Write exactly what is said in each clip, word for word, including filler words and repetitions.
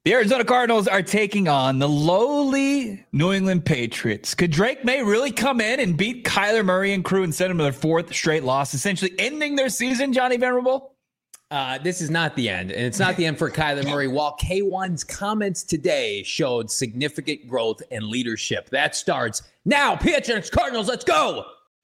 The Arizona Cardinals are taking on the lowly New England Patriots. Could Drake May really come in and beat Kyler Murray and crew and send them to their fourth straight loss, essentially ending their season, Johnny Venerable? Uh, this is not the end, and it's not the end for Kyler Murray. While K one's comments today showed significant growth and leadership. That starts now. P H N X Cardinals, let's go!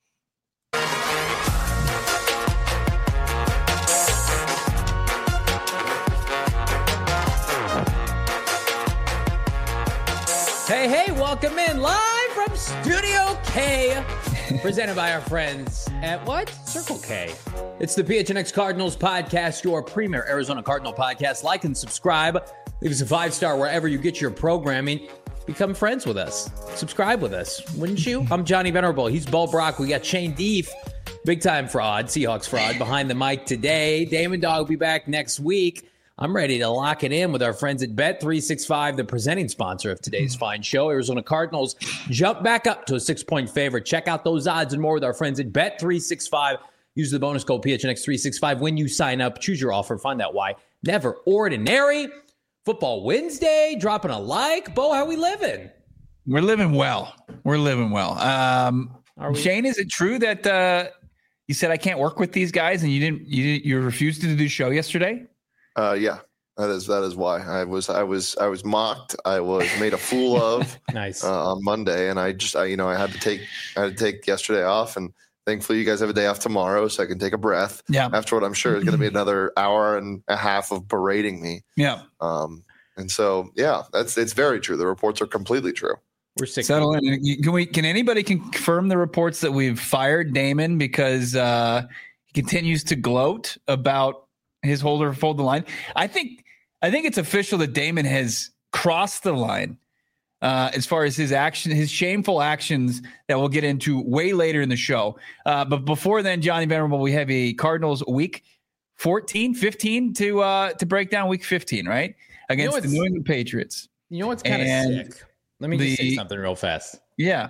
Hey, hey, welcome in live from Studio K, presented by our friends at what? Circle K. It's the P H N X Cardinals podcast, your premier Arizona Cardinal podcast. Like and subscribe. Leave us a five-star wherever you get your programming. Become friends with us. Subscribe with us, wouldn't you? I'm Johnny Venerable. He's Bo Brock. We got Shane Deef, big-time fraud, Seahawks fraud, behind the mic today. Damon Dog will be back next week. I'm ready to lock it in with our friends at Bet three sixty-five, the presenting sponsor of today's fine show. Arizona Cardinals jump back up to a six-point favorite. Check out those odds and more with our friends at Bet three sixty-five. Use the bonus code P H N X three sixty-five when you sign up. Choose your offer. Find out why. Never ordinary. Football Wednesday. Dropping a like. Bo, how we living? We're living well. We're living well. Um, we- Shane, is it true that uh, you said I can't work with these guys and you didn't? You didn't, you refused to do the show yesterday? Uh, yeah, that is that is why I was I was I was mocked. I was made a fool of. Nice uh, on Monday, and I just I you know I had to take I had to take yesterday off, and thankfully you guys have a day off tomorrow, so I can take a breath. Yeah. After what I'm sure is going to be another hour and a half of berating me. Yeah. Um. And so yeah, that's it's very true. The reports are completely true. We're sick. Settle in. Can we? Can anybody confirm the reports that we've fired Damon because uh, he continues to gloat about his holder fold the line? I think I think it's official that Damon has crossed the line uh, as far as his action, his shameful actions that we'll get into way later in the show. Uh, but before then, Johnny Venerable, we have a Cardinals week fourteen, fifteen to uh, to break down week fifteen, right? Against you know the New England Patriots. You know what's kind of sick? Let me the, just say something real fast. Yeah.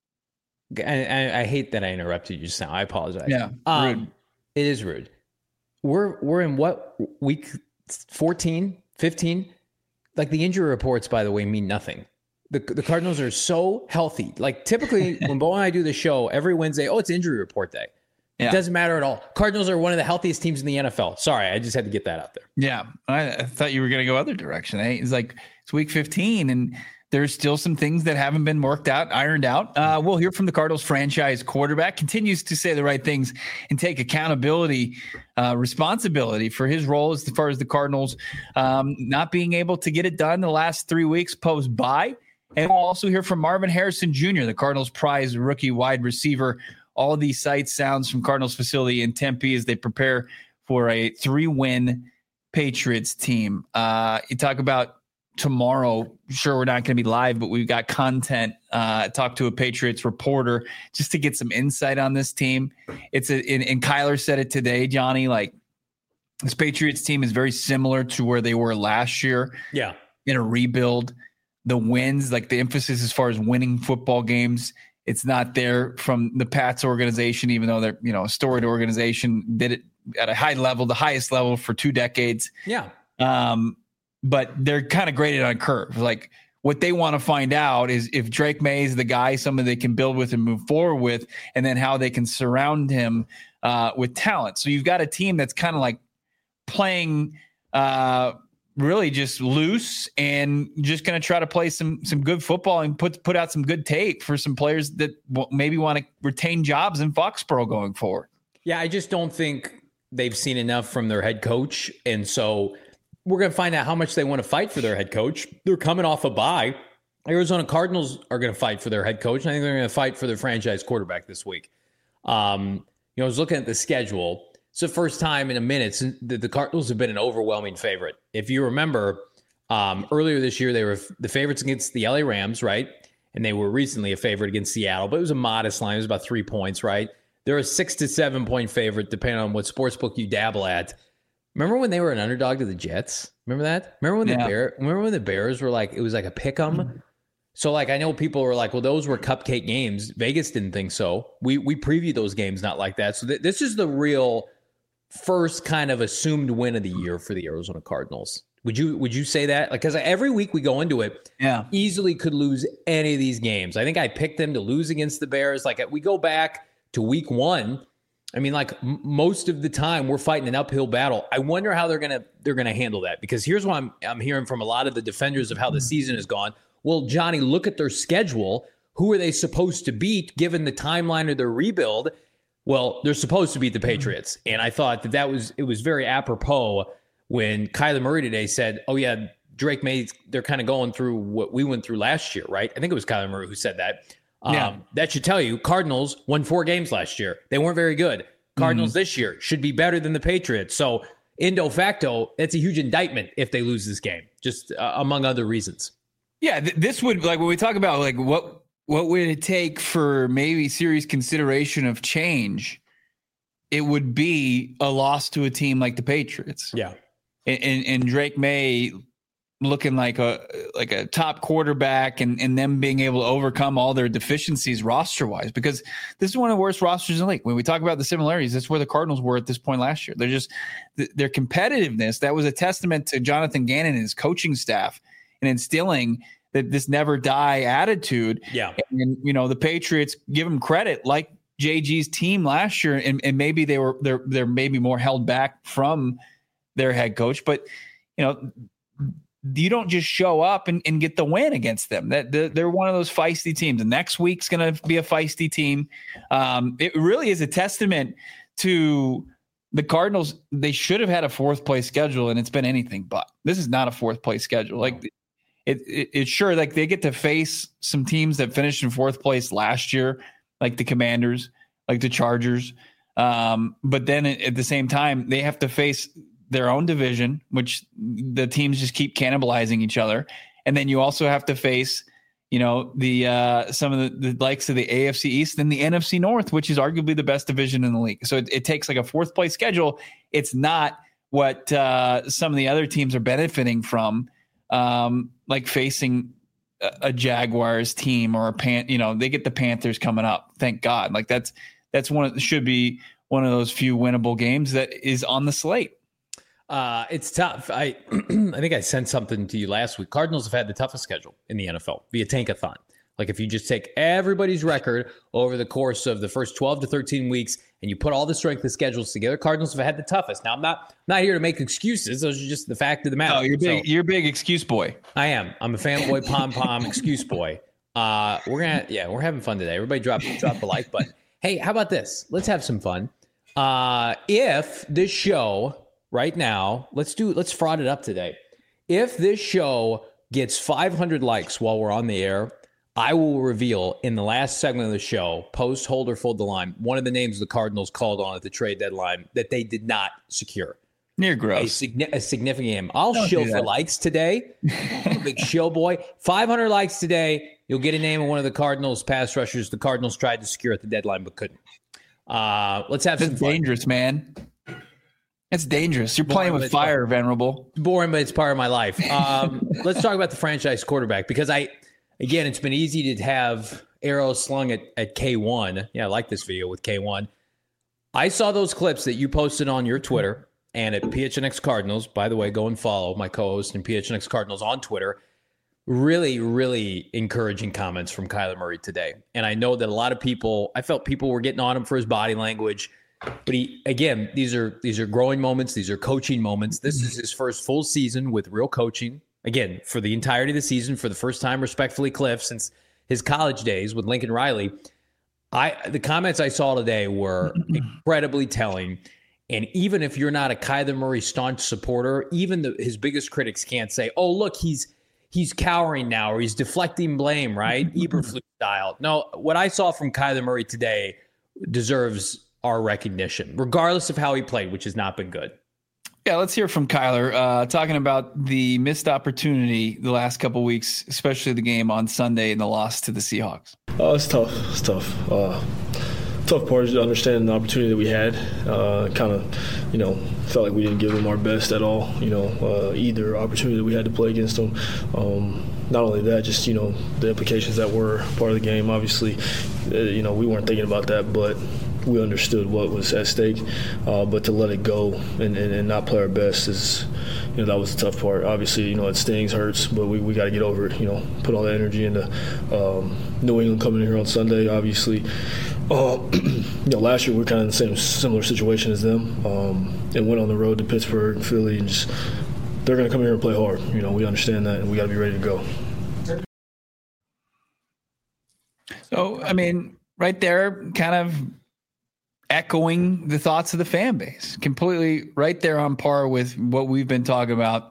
I, I, I hate that I interrupted you just now. I apologize. Yeah. Um, rude. It is rude. We're we're in what, week fourteen, fifteen? Like, the injury reports, by the way, mean nothing. The the Cardinals are so healthy. Like, typically when Bo and I do the show every Wednesday, oh, it's injury report day. Yeah. It doesn't matter at all. Cardinals are one of the healthiest teams in the N F L. Sorry, I just had to get that out there. Yeah, I, I thought you were going to go other direction. Eh? It's like it's week fifteen, and there's still some things that haven't been worked out, ironed out. Uh, we'll hear from the Cardinals franchise quarterback. Continues to say the right things and take accountability, uh, responsibility for his role as far as the Cardinals um, not being able to get it done the last three weeks post bye. And we'll also hear from Marvin Harrison Junior, the Cardinals prize rookie wide receiver. All of these sights, sounds from Cardinals facility in Tempe as they prepare for a three-win Patriots team. Uh, you talk about tomorrow. Sure, we're not going to be live, but we've got content. Uh, talk to a Patriots reporter just to get some insight on this team. It's a, and, and Kyler said it today, Johnny. Like, this Patriots team is very similar to where they were last year. Yeah, in a rebuild. The wins, like the emphasis as far as winning football games, it's not there from the Pats organization, even though they're, you know, a storied organization, did it at a high level, the highest level for two decades. Yeah. Um, but they're kind of graded on curve. Like, what they want to find out is if Drake May is the guy, someone they can build with and move forward with, and then how they can surround him uh, with talent. So you've got a team that's kind of like playing uh, really just loose and just going to try to play some some good football and put put out some good tape for some players that w- maybe want to retain jobs in Foxborough going forward. Yeah, I just don't think they've seen enough from their head coach. And so we're going to find out how much they want to fight for their head coach. They're coming off a bye. Arizona Cardinals are going to fight for their head coach. And I think they're going to fight for their franchise quarterback this week. Um, you know, I was looking at the schedule. It's the first time in a minute that the Cardinals have been an overwhelming favorite. If you remember, um, earlier this year, they were the favorites against the L A Rams, right? And they were recently a favorite against Seattle, but it was a modest line. It was about three points, right? They're a six to seven point favorite, depending on what sportsbook you dabble at. Remember when they were an underdog to the Jets? Remember that? Remember when yeah. the Bear? Remember when the Bears were like, it was like a pick 'em? Mm-hmm. So, like, I know people were like, well, those were cupcake games. Vegas didn't think so. We we previewed those games not like that. So th- this is the real first kind of assumed win of the year for the Arizona Cardinals. Would you would you say that? Like, because every week we go into it, yeah, easily could lose any of these games. I think I picked them to lose against the Bears. Like, we go back to week one. I mean, like m- most of the time we're fighting an uphill battle. I wonder how they're gonna they're gonna handle that, because here's what I'm I'm hearing from a lot of the defenders of how the season has gone. Well, Johnny, look at their schedule. Who are they supposed to beat given the timeline of their rebuild? Well, they're supposed to beat the Patriots, and I thought that that was it was very apropos when Kyler Murray today said, "Oh yeah, Drake May, they're kind of going through what we went through last year, right?" I think it was Kyler Murray who said that. Yeah. Um, that should tell you Cardinals won four games last year. They weren't very good. Cardinals mm-hmm. this year should be better than the Patriots. So, indo facto, that's a huge indictment if they lose this game, just uh, among other reasons. Yeah, th- this would, like, when we talk about like what what would it take for maybe serious consideration of change, it would be a loss to a team like the Patriots. Yeah, and and, and Drake May looking like a like a top quarterback, and, and them being able to overcome all their deficiencies roster-wise, because this is one of the worst rosters in the league. When we talk about the similarities, that's where the Cardinals were at this point last year. They're just their competitiveness. That was a testament to Jonathan Gannon and his coaching staff and instilling that this never die attitude. Yeah. And, you know, the Patriots, give them credit, like J G's team last year, and, and maybe they were they're they're maybe more held back from their head coach, but you know, you don't just show up and, and get the win against them. That they're, they're one of those feisty teams. The next week's going to be a feisty team. Um, it really is a testament to the Cardinals. They should have had a fourth place schedule, and it's been anything but. This is not a fourth place schedule. Like it, it, it's sure like they get to face some teams that finished in fourth place last year, like the Commanders, like the Chargers. Um, but then at, at the same time, they have to face their own division, which the teams just keep cannibalizing each other. And then you also have to face, you know, the uh, some of the, the likes of the A F C East and the N F C North, which is arguably the best division in the league. So it, it takes like a fourth place schedule. It's not what uh, some of the other teams are benefiting from, um, like facing a, a Jaguars team or a Pan, you know, they get the Panthers coming up. Thank God. Like that's, that's one of, should be one of those few winnable games that is on the slate. Uh, it's tough. I I think I sent something to you last week. Cardinals have had the toughest schedule in the N F L via Tankathon. Like if you just take everybody's record over the course of the first twelve to thirteen weeks and you put all the strength of schedules together, Cardinals have had the toughest. Now I'm not not here to make excuses. Those are just the fact of the matter. Oh, you're big. So, you're a big excuse boy. I am. I'm a fanboy, pom pom, excuse boy. Uh, we're gonna yeah, we're having fun today. Everybody drop drop the like button. Hey, how about this? Let's have some fun. Uh, if this show right now, let's do let's fraud it up today. If this show gets five hundred likes while we're on the air, I will reveal in the last segment of the show, post, hold, or fold the line, one of the names the Cardinals called on at the trade deadline that they did not secure. Near gross. A, signi- a significant game. I'll Don't shill for likes today. I'm a big shill boy. five hundred likes today. You'll get a name of one of the Cardinals pass rushers the Cardinals tried to secure at the deadline but couldn't. Uh, let's have That's some fun. Dangerous, man. It's dangerous. You're playing boring, with fire, fun. Venerable. It's boring, but it's part of my life. Um, let's talk about the franchise quarterback, because I, again, it's been easy to have arrows slung at, at K one. Yeah, I like this video with K one. I saw those clips that you posted on your Twitter and at P H N X Cardinals. By the way, go and follow my co-host and P H N X Cardinals on Twitter. Really, really encouraging comments from Kyler Murray today. And I know that a lot of people, I felt people were getting on him for his body language. But he, again, these are these are growing moments. These are coaching moments. This is his first full season with real coaching. Again, for the entirety of the season, for the first time, respectfully, Cliff, since his college days with Lincoln Riley. I the comments I saw today were incredibly telling. And even if you're not a Kyler Murray staunch supporter, even the, his biggest critics can't say, "Oh, look, he's he's cowering now," or he's deflecting blame, right? Eberflus style. No, what I saw from Kyler Murray today deserves our recognition, regardless of how he played, which has not been good. Yeah, let's hear from Kyler uh, talking about the missed opportunity the last couple of weeks, especially the game on Sunday and the loss to the Seahawks. Oh, it's tough. It's tough. Uh, tough part is to understand the opportunity that we had. Uh, kind of, you know, felt like we didn't give them our best at all. You know, uh, either opportunity that we had to play against them. Um, not only that, just, you know, the implications that were part of the game. Obviously, uh, you know, we weren't thinking about that, but we understood what was at stake, uh, but to let it go and, and, and not play our best is, you know, that was the tough part. Obviously, you know, it stings, hurts, but we, we got to get over it, you know, put all that energy into um, New England coming in here on Sunday, obviously. Uh, you know, last year we were kind of in the same similar situation as them, um, and went on the road to Pittsburgh, Philly, and just they're going to come here and play hard. You know, we understand that, and we got to be ready to go. So, I mean, right there, kind of echoing the thoughts of the fan base, completely right there on par with what we've been talking about.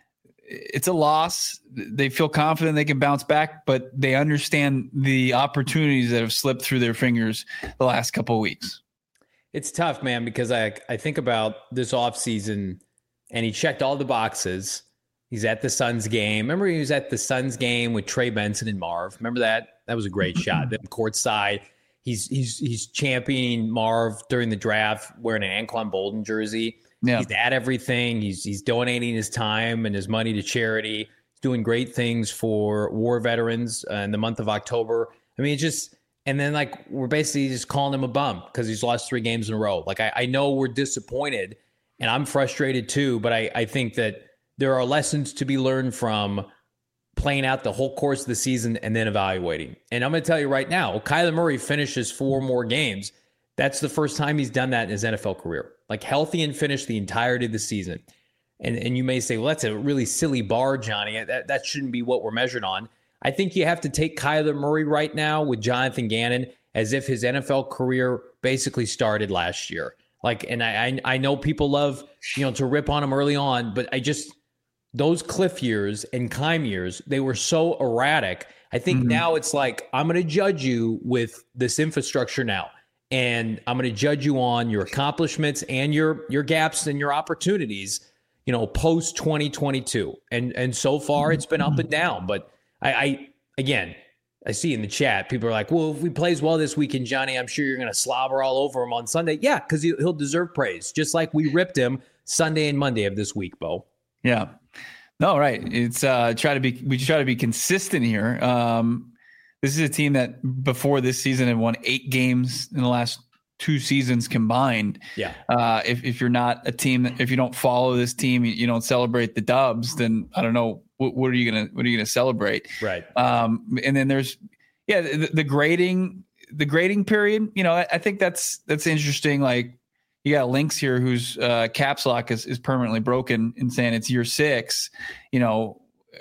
It's a loss. They feel confident they can bounce back, but they understand the opportunities that have slipped through their fingers the last couple of weeks. It's tough, man, because I I think about this offseason, and he checked all the boxes. He's at the Suns game. Remember he was at the Suns game with Trey Benson and Marv? Remember that? That was a great shot. Them courtside. He's he's he's championing Marv during the draft wearing an Anquan Bolden jersey. Yeah. He's at everything. He's he's donating his time and his money to charity. He's doing great things for war veterans uh, in the month of October. I mean, it's just, and then like we're basically just calling him a bum because he's lost three games in a row. Like I, I know we're disappointed and I'm frustrated too, but I, I think that there are lessons to be learned from playing out the whole course of the season and then evaluating. And I'm going to tell you right now, Kyler Murray finishes four more games. That's the first time he's done that in his N F L career. Like healthy and finished the entirety of the season. And and you may say, well, that's a really silly bar, Johnny. That, that shouldn't be what we're measured on. I think you have to take Kyler Murray right now with Jonathan Gannon as if his N F L career basically started last year. Like, and I I, I know people love, you know, to rip on him early on, but I just, those Cliff years and Keim years, they were so erratic. I think mm-hmm. now it's like, I'm going to judge you with this infrastructure now. And I'm going to judge you on your accomplishments and your your gaps and your opportunities, you know, post twenty twenty-two. And and so far it's been up and down. But I, I again, I see in the chat, people are like, well, if he plays well this weekend, Johnny, I'm sure you're going to slobber all over him on Sunday. Yeah, because he, he'll deserve praise, just like we ripped him Sunday and Monday of this week, Bo. Yeah. No, right. It's uh, try to be we try to be consistent here. Um, This is a team that before this season had won eight games in the last two seasons combined. Yeah. Uh, if, if you're not a team, that, if you don't follow this team, you don't celebrate the dubs, then I don't know, what, what are you going to, what are you going to celebrate? Right. Um, and then there's, yeah, the, the grading, the grading period, you know, I, I think that's, that's interesting. Like you got Lynx here whose uh, caps lock is, is permanently broken and saying it's year six, you know,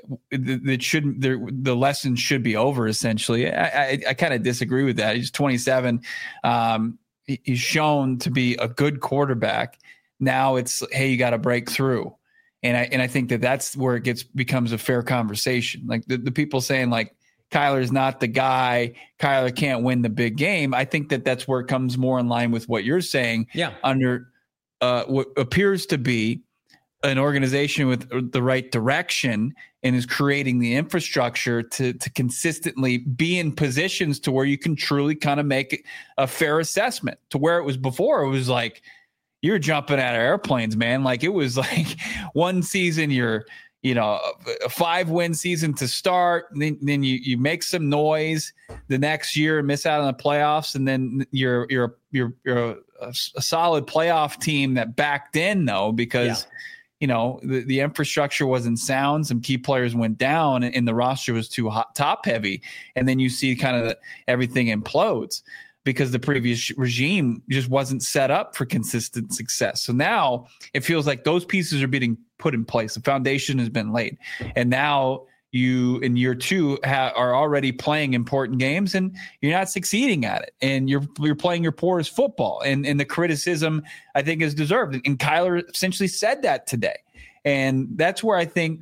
that should the the lesson should be over essentially. I I, I kind of disagree with that. He's twenty-seven. Um, he, he's shown to be a good quarterback. Now it's hey, you got to break through, and I and I think that that's where it gets becomes a fair conversation. Like the, the people saying like Kyler's not the guy. Kyler can't win the big game. I think that that's where it comes more in line with what you're saying. Yeah. Under uh, what appears to be an organization with the right direction and is creating the infrastructure to to consistently be in positions to where you can truly kind of make a fair assessment. To where it was before, it was like you're jumping out of airplanes, man. Like it was like one season you're, you know, a five win season to start, and then, then you you make some noise the next year and miss out on the playoffs, and then you're you're you're you're a, a solid playoff team that backed in though because. Yeah. You know, the, the infrastructure wasn't sound. Some key players went down and, and the roster was too hot, top heavy. And then you see kind of the, everything implodes because the previous regime just wasn't set up for consistent success. So now it feels like those pieces are being put in place. The foundation has been laid. And now you in year two ha- are already playing important games and you're not succeeding at it. And you're you're playing your poorest football. And, and the criticism, I think, is deserved. And Kyler essentially said that today. And that's where I think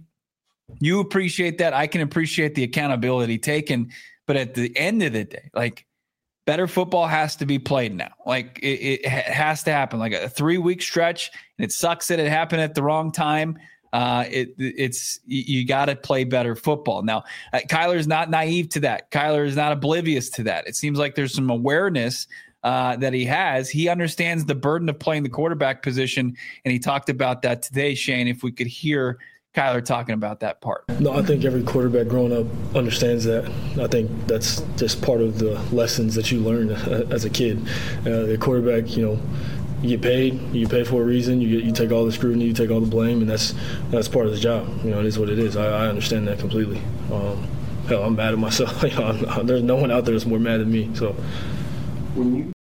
you appreciate that. I can appreciate the accountability taken. But at the end of the day, like, better football has to be played now. Like, it, it has to happen. Like a three-week stretch, and it sucks that it happened at the wrong time. Uh, it it's you got to play better football. Now, uh, Kyler's not naive to that. Kyler is not oblivious to that. It seems like there's some awareness uh, that he has. He understands the burden of playing the quarterback position, and he talked about that today, Shane. If we could hear Kyler talking about that part. No, I think every quarterback growing up understands that. I think that's just part of the lessons that you learn as a kid. Uh, the quarterback, you know, you get paid. You get paid for a reason. You get, you take all the scrutiny. You take all the blame, and that's that's part of the job. You know, it is what it is. I, I understand that completely. Um, hell, I'm mad at myself. You know, I'm, there's no one out there that's more mad than me. So, I'm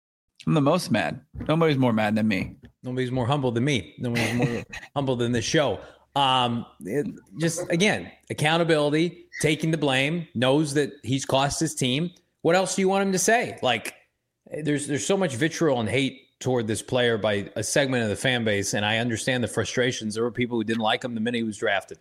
the most mad. Nobody's more mad than me. Nobody's more humble than me. Nobody's more humble than this show. Um, it, just again, accountability, taking the blame, knows that he's cost his team. What else do you want him to say? Like, there's there's so much vitriol and hate toward this player by a segment of the fan base, and I understand the frustrations. There were people who didn't like him the minute he was drafted.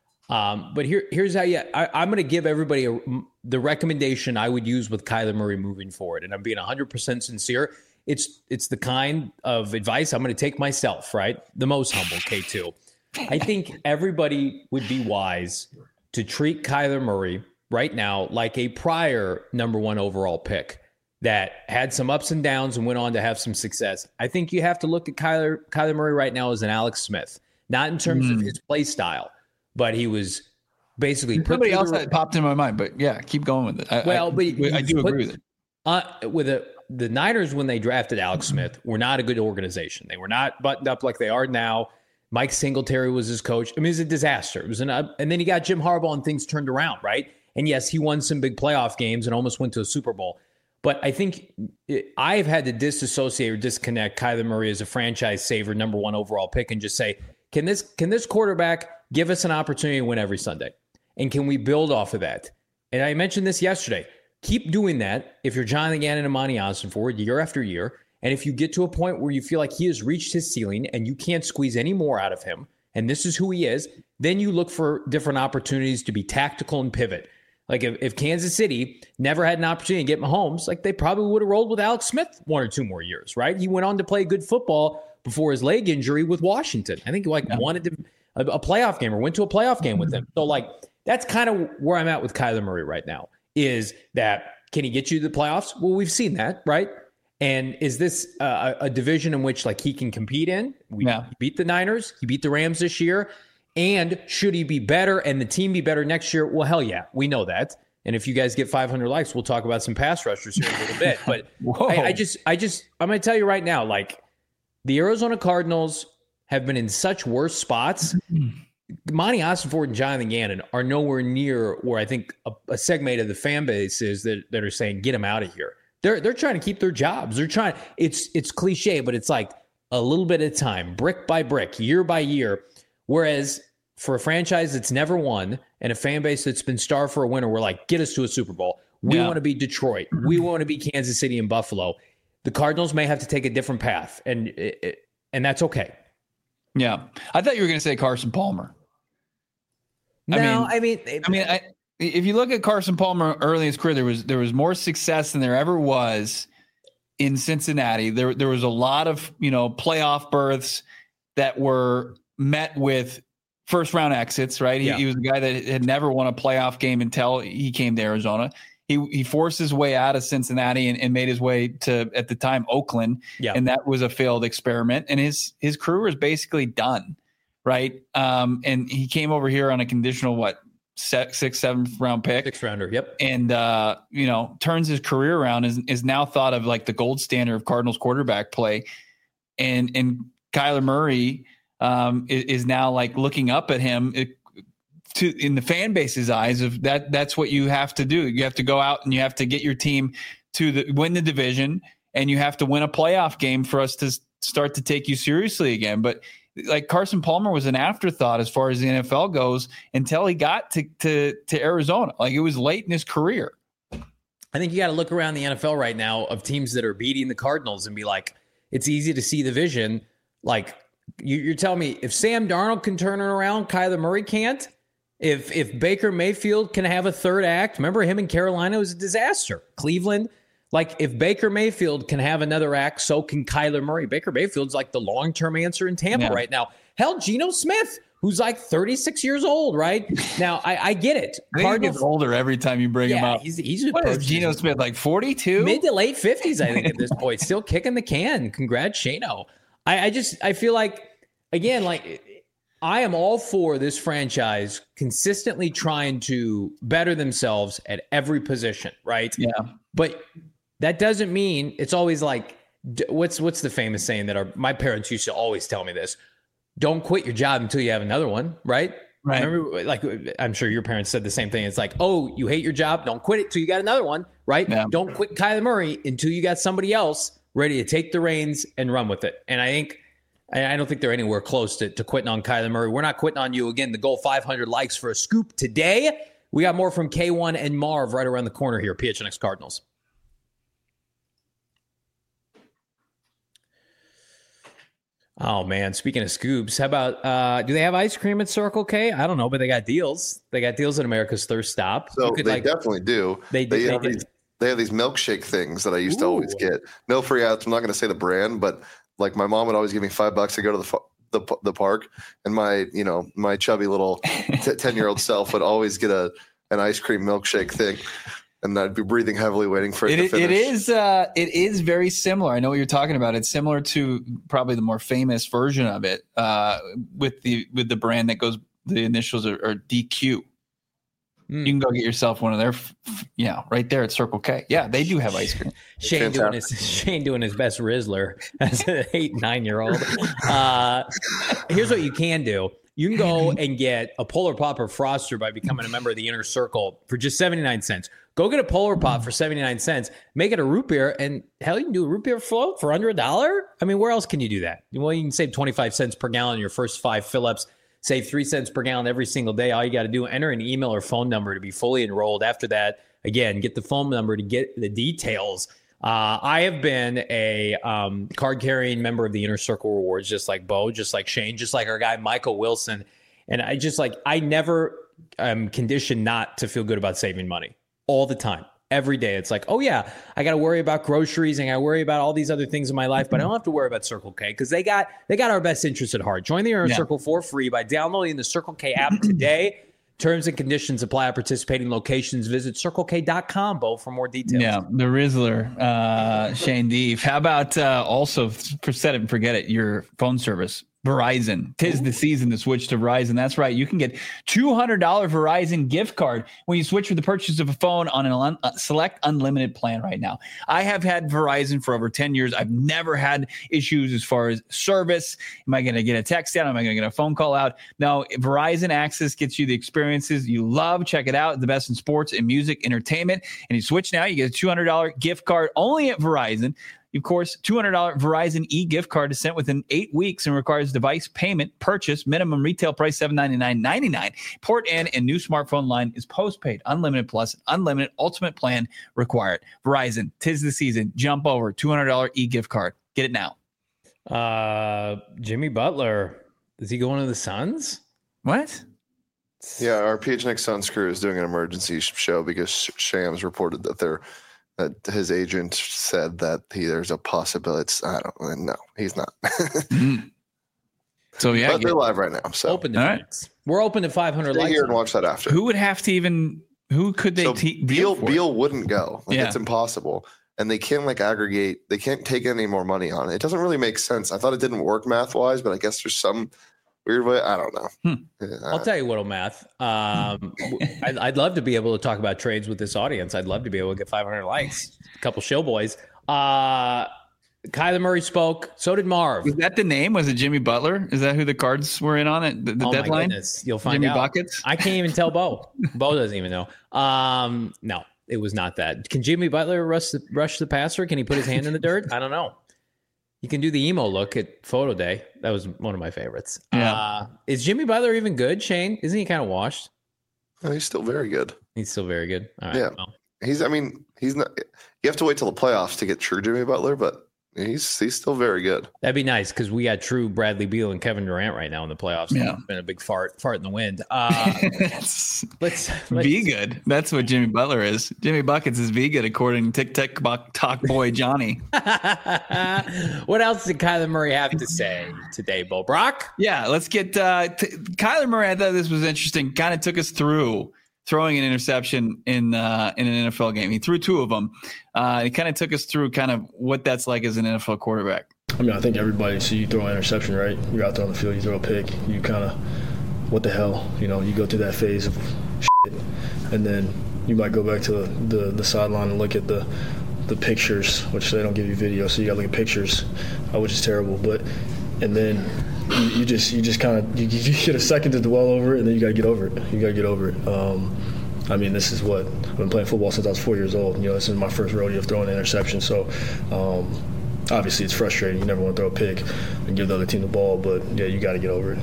Um, but here here's how you. I, I'm going to give everybody a, the recommendation I would use with Kyler Murray moving forward, and I'm being one hundred percent sincere. It's it's the kind of advice I'm going to take myself. Right, the most humble K two. I think everybody would be wise to treat Kyler Murray right now like a prior number one overall pick that had some ups and downs and went on to have some success. I think you have to look at Kyler Kyler Murray right now as an Alex Smith, not in terms mm. of his play style, but he was basically put somebody else that popped in my mind. But yeah, keep going with it. I, well, but I, I do put, agree with it. Uh, with a, the Niners, when they drafted Alex Smith, were not a good organization. They were not buttoned up like they are now. Mike Singletary was his coach. I mean, it was a disaster. It was an, uh, and then he got Jim Harbaugh and things turned around, right? And yes, he won some big playoff games and almost went to a Super Bowl. But I think it, I've had to disassociate or disconnect Kyler Murray as a franchise saver, number one overall pick, and just say, can this can this quarterback give us an opportunity to win every Sunday? And can we build off of that? And I mentioned this yesterday. Keep doing that if you're Jonathan Gannon and Monty Ossenford year after year. And if you get to a point where you feel like he has reached his ceiling and you can't squeeze any more out of him, and this is who he is, then you look for different opportunities to be tactical and pivot. Like if, if Kansas City never had an opportunity to get Mahomes, like they probably would have rolled with Alex Smith one or two more years, right? He went on to play good football before his leg injury with Washington. I think he like yeah. wanted to, a, a playoff game or went to a playoff game with him. So like that's kind of where I'm at with Kyler Murray right now, is that can he get you to the playoffs? Well, we've seen that, right? And is this uh, a division in which like he can compete in? We yeah. beat the Niners. He beat the Rams this year. And should he be better and the team be better next year? Well, hell yeah, we know that. And if you guys get five hundred likes, we'll talk about some pass rushers here in a little bit. But I, I just, I just, I'm going to tell you right now, like the Arizona Cardinals have been in such worse spots. Monty Ossenford and Jonathan Gannon are nowhere near where I think a, a segment of the fan base is that, that are saying, get him out of here. They're they're trying to keep their jobs. They're trying. It's it's cliche, but it's like a little bit at a time, brick by brick, year by year. Whereas for a franchise that's never won and a fan base that's been starved for a winner, we're like, get us to a Super Bowl. We yeah. want to be Detroit. We want to be Kansas City and Buffalo. The Cardinals may have to take a different path, and it, and that's okay. Yeah, I thought you were going to say Carson Palmer. No, I mean, I mean, I mean, I, if you look at Carson Palmer early in his career, there was there was more success than there ever was in Cincinnati. There there was a lot of, you know, playoff berths that were met with first round exits, right? He, yeah. he was a guy that had never won a playoff game until he came to Arizona. He he forced his way out of Cincinnati and, and made his way to, at the time, Oakland. Yeah. And that was a failed experiment. And his his career was basically done, right? Um, and he came over here on a conditional, what, six, six seventh round pick. Sixth rounder, yep. And, uh, you know, turns his career around, is, is now thought of like the gold standard of Cardinals quarterback play. And, and Kyler Murray um, is, is now like looking up at him it, to in the fan base's eyes of that. That's what you have to do. You have to go out and you have to get your team to the win the division, and you have to win a playoff game for us to start to take you seriously again. But like Carson Palmer was an afterthought as far as the N F L goes until he got to to, to Arizona. Like it was late in his career. I think you got to look around the N F L right now of teams that are beating the Cardinals and be like, it's easy to see the vision. Like you, you're telling me if Sam Darnold can turn it around, Kyler Murray can't. If if Baker Mayfield can have a third act, remember him in Carolina was a disaster. Cleveland, like if Baker Mayfield can have another act, so can Kyler Murray. Baker Mayfield's like the long-term answer in Tampa yeah. right now. Hell, Geno Smith, who's like thirty-six years old, right? Now, I, I get it. I think he gets older every time you bring yeah, him up. He's, he's what is Geno Smith, like forty-two? Mid to late fifties, I think, at this point. Still kicking the can. Congrats, Shano. I, I just, I feel like, again, like, I am all for this franchise consistently trying to better themselves at every position, right? Yeah. But that doesn't mean it's always like, what's what's the famous saying that our my parents used to always tell me this? Don't quit your job until you have another one, right? Right. Remember, like, I'm sure your parents said the same thing. It's like, oh, you hate your job, don't quit it till you got another one, right? Yeah. Don't quit Kyler Murray until you got somebody else ready to take the reins and run with it. And I think, I don't think they're anywhere close to, to quitting on Kyler Murray. We're not quitting on you. Again, the goal, five hundred likes for a scoop today. We got more from K one and Marv right around the corner here, P H N X Cardinals. Oh, man. Speaking of scoops, how about, uh, do they have ice cream at Circle K? I don't know, but they got deals. They got deals at America's Thirst Stop. So could, they like, definitely do. They, they, they, have they these, they have these milkshake things that I used Ooh. to always get. No free ads. I'm not going to say the brand, but like my mom would always give me five bucks to go to the the, the park, and my you know my chubby little ten year old self would always get a an ice cream milkshake thing. And I'd be breathing heavily, waiting for it, it to finish. It is, uh, it is very similar. I know what you're talking about. It's similar to probably the more famous version of it, uh, with the with the brand that goes. The initials are, are D Q. Mm. You can go get yourself one of their, yeah, right there at Circle K. Yeah, they do have ice cream. Shane doing his Shane doing his best Rizzler as an eight nine year old. Uh, here's what you can do. You can go and get a Polar Pop or Froster by becoming a member of the Inner Circle for just seventy-nine cents. Go get a Polar Pop for seventy-nine cents, make it a root beer, and hell, you can do a root beer float for under a dollar. I mean, where else can you do that? Well, you can save twenty-five cents per gallon in your first five fill-ups, save three cents per gallon every single day. All you got to do, enter an email or phone number to be fully enrolled. After that, again, get the phone number to get the details. Uh, I have been a um, card-carrying member of the Inner Circle Rewards, just like Bo, just like Shane, just like our guy Michael Wilson. And I just like, I never am conditioned not to feel good about saving money all the time. Every day. It's like, oh yeah, I got to worry about groceries and I worry about all these other things in my life, but I don't have to worry about Circle K because they got they got our best interests at heart. Join the Inner yeah. Circle for free by downloading the Circle K app today. Terms and conditions apply at participating locations. Visit circle k dot com, Bo, for more details. Yeah, the Rizzler, uh, Shane Deeve. How about uh, also, for set it and forget it, your phone service? Verizon. Tis the season to switch to Verizon. That's right. You can get two hundred dollars Verizon gift card when you switch for the purchase of a phone on an un- uh, select unlimited plan right now. I have had Verizon for over ten years. I've never had issues as far as service. Am I going to get a text out? Am I going to get a phone call out? No, Verizon Access gets you the experiences you love. Check it out. The best in sports and music, entertainment. And you switch now, you get a two hundred dollars gift card only at Verizon. Of course, two hundred dollars Verizon e-gift card is sent within eight weeks and requires device payment, purchase, minimum retail price seven hundred ninety-nine dollars and ninety-nine cents. Port in and new smartphone line is postpaid, unlimited plus, unlimited ultimate plan required. Verizon, tis the season. Jump over, two hundred dollars e-gift card. Get it now. Uh, Jimmy Butler, is he going to the Suns? What? Yeah, our P H N X Suns crew is doing an emergency show because Shams reported that they're that his agent said that he, there's a possibility. It's, I don't know. He's not. mm. So, yeah. But they're live right now. So open to right. We're open to five hundred Stay likes. here and watch that after. Who would have to even, who could they so te- Beal, for? Beal wouldn't go. Like, yeah. It's impossible. And they can't like aggregate. They can't take any more money on it. It doesn't really make sense. I thought it didn't work math wise, but I guess there's some weird way. I don't know. Hmm. Yeah, I'll tell you what'll math. Um, I'd, I'd love to be able to talk about trades with this audience. I'd love to be able to get five hundred likes. A couple show boys. Uh, Kyler Murray spoke. So did Marv. Is that the name? Was it Jimmy Butler? Is that who the Cards were in on it? The, the oh deadline? My goodness. You'll find Jimmy out. Buckets? I can't even tell Bo. Bo doesn't even know. Um, no, it was not that. Can Jimmy Butler rush the, rush the passer? Can he put his hand in the dirt? I don't know. You can do the emo look at photo day. That was one of my favorites. Yeah. Uh, is Jimmy Butler even good, Shane? Isn't he kind of washed? No, he's still very good. He's still very good. All right. Yeah. Well. He's, I mean, he's not, you have to wait till the playoffs to get true Jimmy Butler, but he's, he's still very good. That'd be nice because we got true Bradley Beal and Kevin Durant right now in the playoffs. Yeah. It's been a big fart, fart in the wind. Uh, let's, let's be good. That's what Jimmy Butler is. Jimmy Buckets is be good, according to Tick Tick Talk Boy Johnny. What else did Kyler Murray have to say today, Bo Brock? Yeah, let's get uh, t- Kyler Murray. I thought this was interesting. Kind of took us through throwing an interception in uh, in an N F L game. He threw two of them. Uh, he kind of took us through kind of what that's like as an N F L quarterback. I mean, I think everybody, so you throw an interception, right? You're out there on the field, you throw a pick, you kind of, what the hell? You know, you go through that phase of shit, and then you might go back to the, the, the sideline and look at the the pictures, which they don't give you video, so you got to look at pictures, uh, which is terrible. But and then you, you just you just kind of you, you get a second to dwell over it, and then you got to get over it. You got to get over it. Um, I mean, this is what I've been playing football since I was four years old. You know, this is my first rodeo of throwing an interception. So um, obviously, it's frustrating. You never want to throw a pick and give the other team the ball, but yeah, you got to get over it.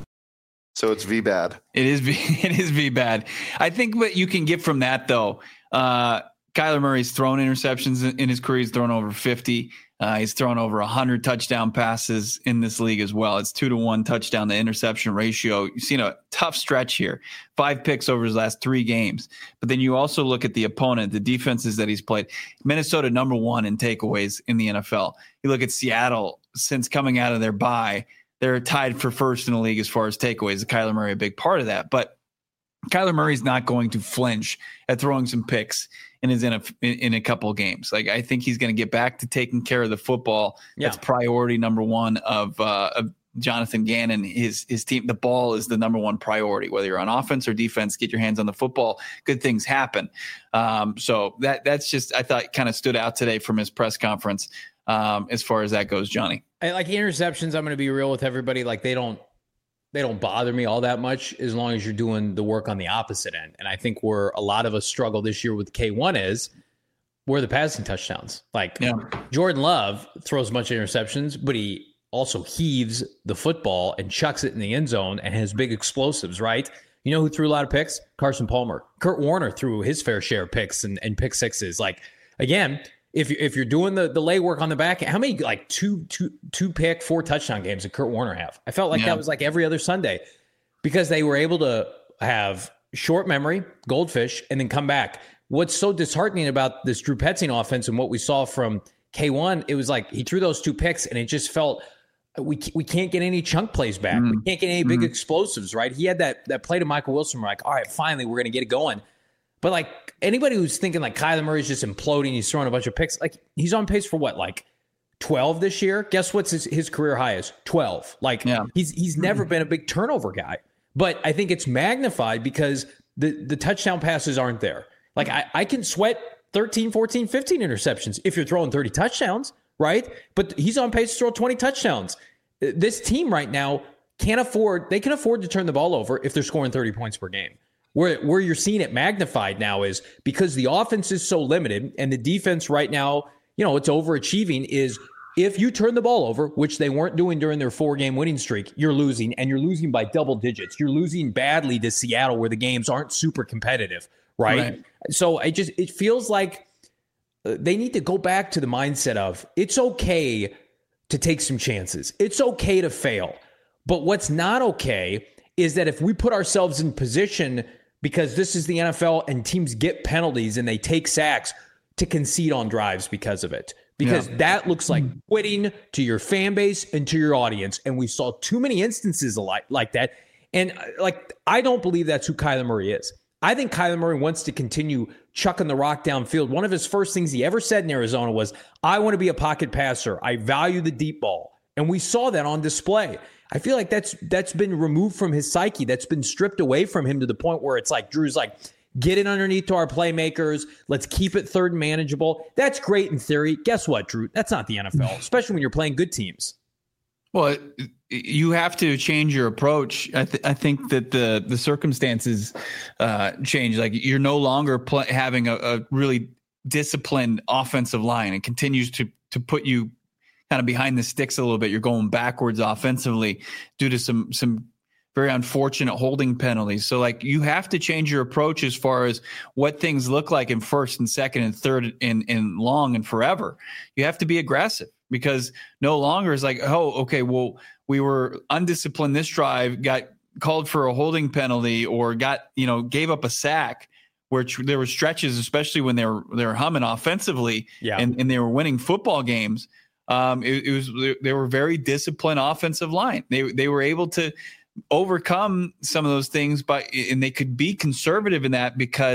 So it's V bad. It is V. It is V bad. I think what you can get from that though. Uh, Kyler Murray's thrown interceptions in his career. He's thrown over fifty. Uh, he's thrown over one hundred touchdown passes in this league as well. It's two to one touchdown to interception ratio. You've seen a tough stretch here. Five picks over his last three games. But then you also look at the opponent, the defenses that he's played. Minnesota number one in takeaways in the N F L. You look at Seattle since coming out of their bye. They're tied for first in the league as far as takeaways. Kyler Murray a big part of that. But Kyler Murray's not going to flinch at throwing some picks in his in a in a couple of games. Like I think he's going to get back to taking care of the football. Yeah. That's priority number one of uh, of Jonathan Gannon. His his team. The ball is the number one priority. Whether you're on offense or defense, get your hands on the football. Good things happen. Um, so that that's just I thought kind of stood out today from his press conference um, as far as that goes, Johnny. I, like interceptions, I'm going to be real with everybody. Like they don't. They don't bother me all that much as long as you're doing the work on the opposite end. And I think where a lot of us struggle this year with K one is where the passing touchdowns. Like yeah. Jordan Love throws a bunch of interceptions, but he also heaves the football and chucks it in the end zone and has big explosives, right? You know who threw a lot of picks? Carson Palmer. Kurt Warner threw his fair share of picks and, and pick sixes. Like, again, if, you, if you're doing the, the legwork on the back, how many like two, two, two pick, four touchdown games did Kurt Warner have? I felt like yeah. that was like every other Sunday because they were able to have short memory, goldfish, and then come back. What's so disheartening about this Drew Petzing offense and what we saw from K one, it was like he threw those two picks and it just felt we we can't get any chunk plays back. Mm. We can't get any big mm. explosives, right? He had that that play to Michael Wilson. We're like, all right, finally, we're going to get it going. But like anybody who's thinking like Kyler Murray's just imploding, he's throwing a bunch of picks, like he's on pace for what, like twelve this year? Guess what's his, his career high is? twelve. Like yeah. he's he's never been a big turnover guy. But I think it's magnified because the, the touchdown passes aren't there. Like I, I can sweat thirteen, fourteen, fifteen interceptions if you're throwing thirty touchdowns, right? But he's on pace to throw twenty touchdowns. This team right now can't afford, they can afford to turn the ball over if they're scoring thirty points per game. Where where you're seeing it magnified now is because the offense is so limited and the defense right now, you know, it's overachieving is if you turn the ball over, which they weren't doing during their four-game winning streak, you're losing, and you're losing by double digits. You're losing badly to Seattle where the games aren't super competitive, right? right. So it just it feels like they need to go back to the mindset of it's okay to take some chances. It's okay to fail. But what's not okay is that if we put ourselves in position because this is the N F L and teams get penalties and they take sacks to concede on drives because of it. Because yeah. that looks like quitting to your fan base and to your audience. And we saw too many instances like, like that. And like, I don't believe that's who Kyler Murray is. I think Kyler Murray wants to continue chucking the rock downfield. One of his first things he ever said in Arizona was, I want to be a pocket passer. I value the deep ball. And we saw that on display. I feel like that's that's been removed from his psyche. That's been stripped away from him to the point where it's like, Drew's like, get it underneath to our playmakers. Let's keep it third and manageable. That's great in theory. Guess what, Drew? That's not the N F L, especially when you're playing good teams. Well, you have to change your approach. I, th- I think that the the circumstances uh, change. Like you're no longer pl- having a, a really disciplined offensive line. It continues to to put you kind of behind the sticks a little bit. You're going backwards offensively due to some some very unfortunate holding penalties. So like you have to change your approach as far as what things look like in first and second and third and, and long and forever. You have to be aggressive because no longer is like, oh, okay, well, we were undisciplined this drive, got called for a holding penalty or got, you know, gave up a sack. Where there were stretches, especially when they were they were humming offensively yeah. and, and they were winning football games. Um, it, it was they were very disciplined offensive line. They they were able to overcome some of those things, but and they could be conservative in that because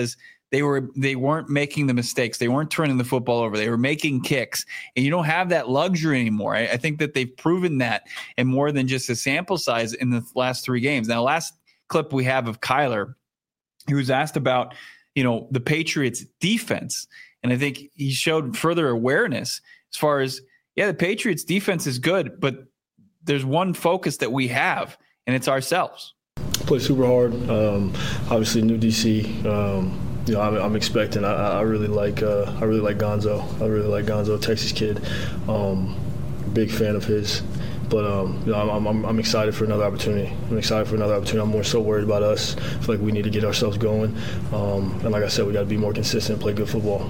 they were they weren't making the mistakes. They weren't turning the football over. They were making kicks, and you don't have that luxury anymore. I, I think that they've proven that, and more than just a sample size in the last three games. Now, last clip we have of Kyler, he was asked about, you know, the Patriots defense. And I think he showed further awareness as far as, yeah, the Patriots defense is good, but there's one focus that we have, and it's ourselves. Play super hard. Um, obviously, new D C. Um, you know, I'm, I'm expecting. I, I really like. Uh, I really like Gonzo. I really like Gonzo, Texas kid. Um, big fan of his. But um, you know, I'm, I'm I'm excited for another opportunity. I'm excited for another opportunity. I'm more so worried about us. I feel like we need to get ourselves going. Um, and like I said, we got to be more consistent and play good football.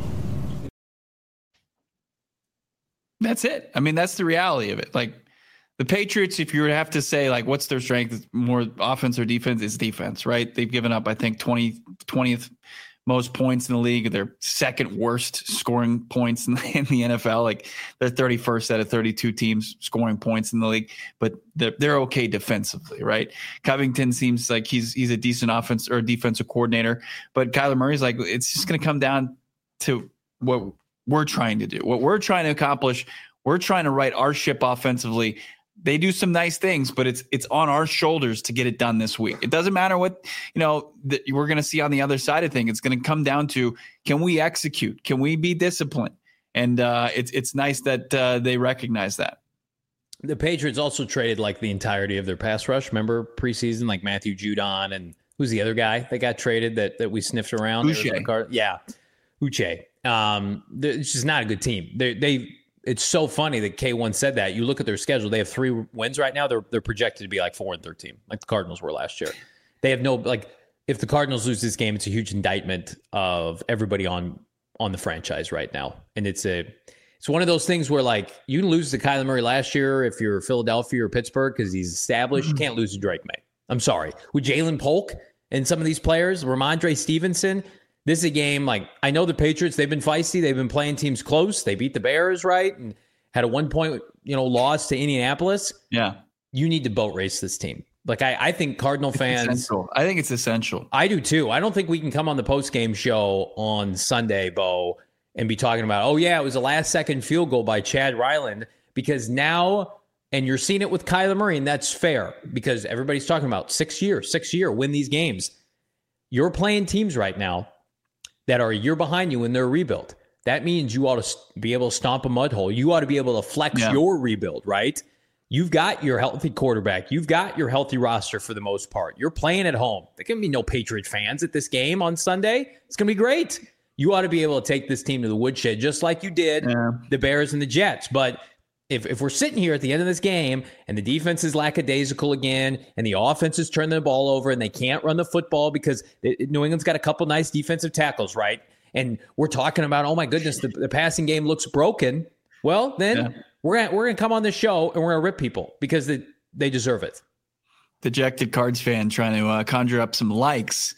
That's it. I mean, that's the reality of it. Like, the Patriots, if you were to have to say, like, what's their strength, more offense or defense, is defense, right? They've given up, I think, twenty, twentieth most points in the league. They're second worst scoring points in the, in the N F L. Like, they're thirty-first out of thirty-two teams scoring points in the league, but they're, they're okay defensively, right? Covington seems like he's he's a decent offense or defensive coordinator, but Kyler Murray's like, it's just going to come down to what we're trying to do, what we're trying to accomplish. We're trying to right our ship offensively. They do some nice things, but it's it's on our shoulders to get it done this week. It doesn't matter what, you know, that we're going to see on the other side of things. It's going to come down to, can we execute? Can we be disciplined? And uh, it's it's nice that uh, they recognize that. The Patriots also traded like the entirety of their pass rush. Remember preseason, like Matthew Judon and who's the other guy that got traded that that we sniffed around? Uche. Yeah, Uche. Um, it's just not a good team. They they. It's so funny that K one said that. You look at their schedule; they have three wins right now. They're they're projected to be like four and thirteen, like the Cardinals were last year. They have no like. If the Cardinals lose this game, it's a huge indictment of everybody on on the franchise right now, and it's a it's one of those things where like you can lose to Kyler Murray last year if you're Philadelphia or Pittsburgh because he's established. Mm-hmm. You can't lose to Drake May. I'm sorry, with Jalen Polk and some of these players, Ramondre Stevenson. This is a game, like, I know the Patriots, they've been feisty. They've been playing teams close. They beat the Bears, right? And had a one-point, you know, loss to Indianapolis. Yeah. You need to boat race this team. Like, I, I think Cardinal it's fans... Essential. I think it's essential. I do, too. I don't think we can come on the post-game show on Sunday, Bo, and be talking about, oh, yeah, it was a last-second field goal by Chad Ryland, because now... And you're seeing it with Kyler Murray, and that's fair, because everybody's talking about six years, six year, win these games. You're playing teams right now that are a year behind you in their rebuild. That means you ought to be able to stomp a mud hole. You ought to be able to flex yeah. your rebuild, right? You've got your healthy quarterback. You've got your healthy roster for the most part. You're playing at home. There can be no Patriot fans at this game on Sunday. It's going to be great. You ought to be able to take this team to the woodshed just like you did yeah. the Bears and the Jets. But if if we're sitting here at the end of this game and the defense is lackadaisical again and the offense is turning the ball over and they can't run the football because New England's got a couple nice defensive tackles, right? And we're talking about, oh, my goodness, the, the passing game looks broken. Well, then yeah. we're gonna, we're going to come on this show and we're going to rip people because they, they deserve it. Dejected Cards fan trying to uh, conjure up some likes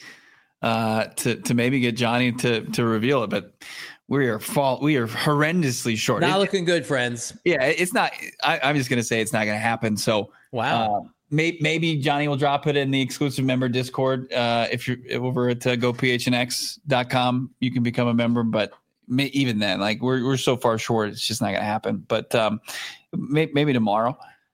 uh, to to maybe get Johnny to to reveal it, but we are fall we are horrendously short. Not it, looking good, friends. Yeah, it's not. I, I'm just gonna say it's not gonna happen. So wow, uh, may, maybe Johnny will drop it in the exclusive member Discord. Uh, if you're over at uh, go p h n x dot com, you can become a member. But may, even then, like we're we're so far short, it's just not gonna happen. But um, may, maybe tomorrow.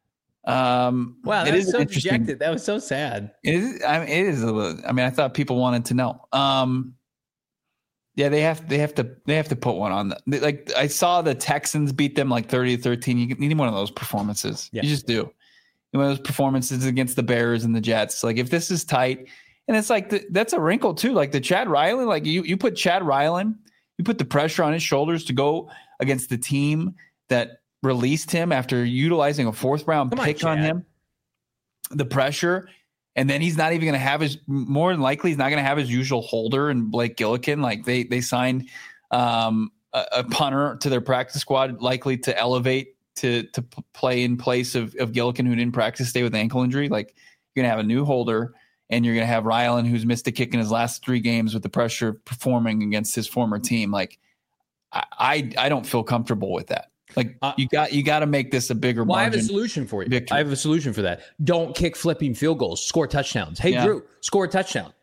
Um, wow, that was so dejected. That was so sad. It is. I mean, it is a little. I mean, I thought people wanted to know. Um, yeah, they have. They have to. They have to put one on. The, like I saw the Texans beat them like thirty to thirteen. You need one of those performances. Yeah. You just do. One of those performances against the Bears and the Jets. Like if this is tight, and it's like the, that's a wrinkle too. Like the Chad Ryland. Like you, you put Chad Ryland. You put the pressure on his shoulders to go against the team that released him after utilizing a fourth round Come pick on, on him, the pressure. And then he's not even going to have his, more than likely, he's not going to have his usual holder and Blake Gillikin. Like they, they signed um, a, a punter to their practice squad, likely to elevate to, to p- play in place of, of Gillikin, who didn't practice today with ankle injury. Like you're going to have a new holder and you're going to have Ryland, who's missed a kick in his last three games with the pressure performing against his former team. Like I, I, I don't feel comfortable with that. Like uh, you got you got to make this a bigger well, margin. I have a solution for you. Victory. I have a solution for that. Don't kick flipping field goals. Score touchdowns. Hey, yeah. Drew, score a touchdown.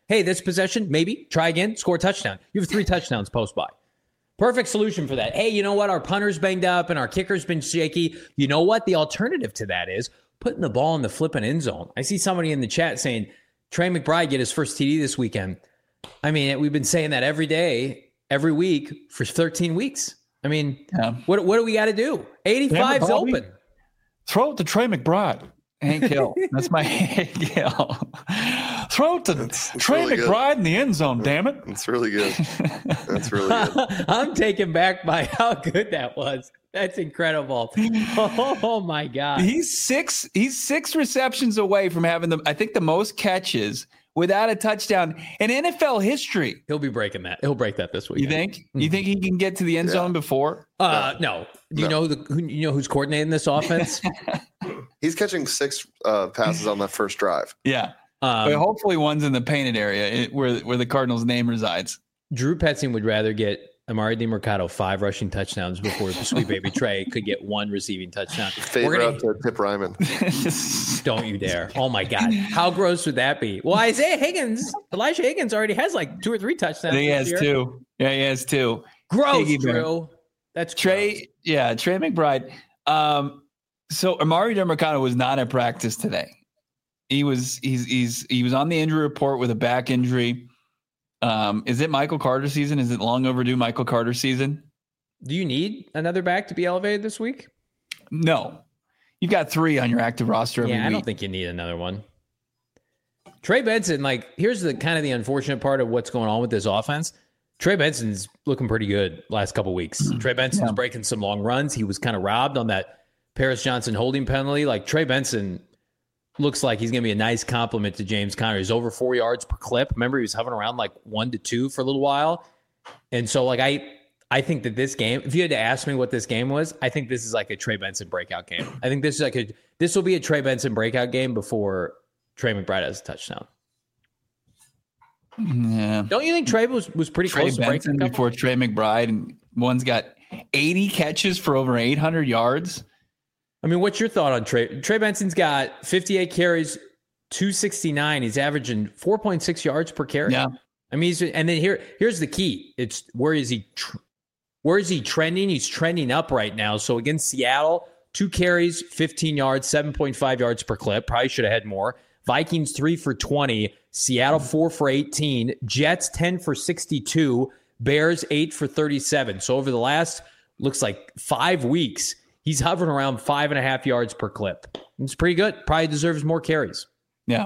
Hey, this possession, maybe try again, score a touchdown. You have three touchdowns post-bye. Perfect solution for that. Hey, you know what? Our punter's banged up and our kicker's been shaky. You know what? The alternative to that is putting the ball in the flipping end zone. I see somebody in the chat saying Trey McBride get his first T D this weekend. I mean, we've been saying that every day, every week for thirteen weeks. I mean, yeah. what what do we got to do? eighty-five's open. Throw it to Trey McBride. Hank Hill. That's my Hank Hill. Throw it to that's, that's Trey really McBride good. In the end zone, damn it. That's really good. That's really good. I'm taken back by how good that was. That's incredible. Oh my God. He's six, he's six receptions away from having the, I think the most catches without a touchdown in N F L history. He'll be breaking that. He'll break that this week. You think? Mm-hmm. You think he can get to the end yeah. zone before? Uh, no. Do you no. know the who, you know who's coordinating this offense? He's catching six uh, passes on that first drive. Yeah. Um, but hopefully one's in the painted area where where the Cardinals' name resides. Drew Petzing would rather get Amari DiMercato five rushing touchdowns before Sweet Baby Trey could get one receiving touchdown. Favorite gonna, up to Tip Ryman. Don't you dare. Oh, my God. How gross would that be? Well, Isaiah Higgins, Elijah Higgins already has like two or three touchdowns. He has year. two. Yeah, he has two. Gross, Higgy Drew. Bear. That's Trey. gross. Yeah, Trey McBride. Um, so Amari DiMercato was not at practice today. He was he's he's he was on the injury report with a back injury. Um, is it Michael Carter season? Is it long overdue Michael Carter season? Do you need another back to be elevated this week? No. You've got three on your active roster every Yeah, I week. don't think you need another one. Trey Benson, like, here's the kind of the unfortunate part of what's going on with this offense. Trey Benson's looking pretty good last couple weeks. Trey Benson's yeah. breaking some long runs. He was kind of robbed on that Paris Johnson holding penalty. Like, Trey Benson looks like he's going to be a nice compliment to James Conner. He's over four yards per clip. Remember, he was hovering around like one to two for a little while. And so, like, I I think that this game, if you had to ask me what this game was, I think this is like a Trey Benson breakout game. I think this is like a, this will be a Trey Benson breakout game before Trey McBride has a touchdown. Yeah. Don't you think Trey was, was pretty Trey close Benson to breaking before Trey McBride, and one's got eighty catches for over eight hundred yards? I mean, what's your thought on Trey? Trey Benson's got fifty-eight carries, two sixty-nine. He's averaging four point six yards per carry. Yeah. I mean, he's, and then here, here's the key. It's where is he, tr- where is he trending? He's trending up right now. So against Seattle, two carries, fifteen yards, seven point five yards per clip. Probably should have had more. Vikings, three for twenty. Seattle, four for eighteen. Jets, ten for sixty-two. Bears, eight for thirty-seven. So over the last, looks like five weeks, he's hovering around five and a half yards per clip. It's pretty good. Probably deserves more carries. Yeah.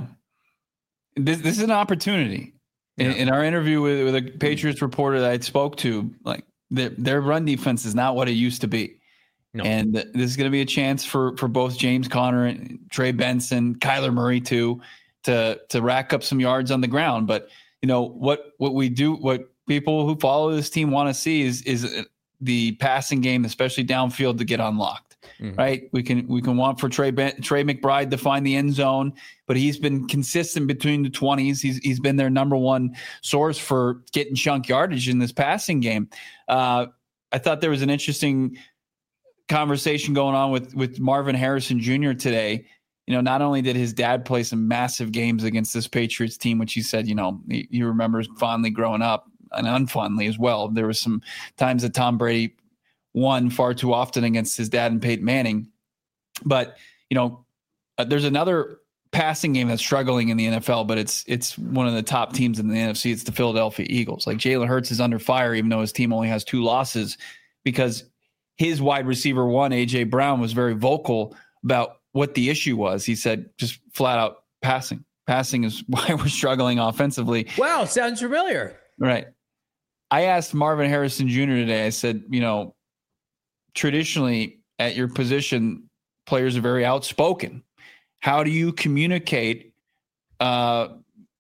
This, this is an opportunity. In, yeah. in our interview with, with a Patriots reporter that I spoke to, like their, their run defense is not what it used to be. No. And this is going to be a chance for, for both James Conner and Trey Benson, Kyler Murray too, to, to rack up some yards on the ground. But, you know, what, what we do, what people who follow this team want to see is, is the passing game, especially downfield, to get unlocked. Mm-hmm. Right. We can we can want for Trey ben, Trey McBride to find the end zone, but he's been consistent between the twenties. He's he's been their number one source for getting chunk yardage in this passing game. Uh, I thought there was an interesting conversation going on with with Marvin Harrison Junior today. You know, not only did his dad play some massive games against this Patriots team, which he said, you know, he, he remembers fondly growing up and unfondly as well. There was some times that Tom Brady won far too often against his dad and Peyton Manning. But, you know, uh, there's another passing game that's struggling in the N F L, but it's it's one of the top teams in the N F C. It's the Philadelphia Eagles. Like Jalen Hurts is under fire, even though his team only has two losses, because his wide receiver one, A J Brown, was very vocal about what the issue was. He said just flat out passing. Passing is why we're struggling offensively. Wow, sounds familiar. Right. I asked Marvin Harrison Junior today, I said, you know, traditionally at your position, players are very outspoken. How do you communicate uh,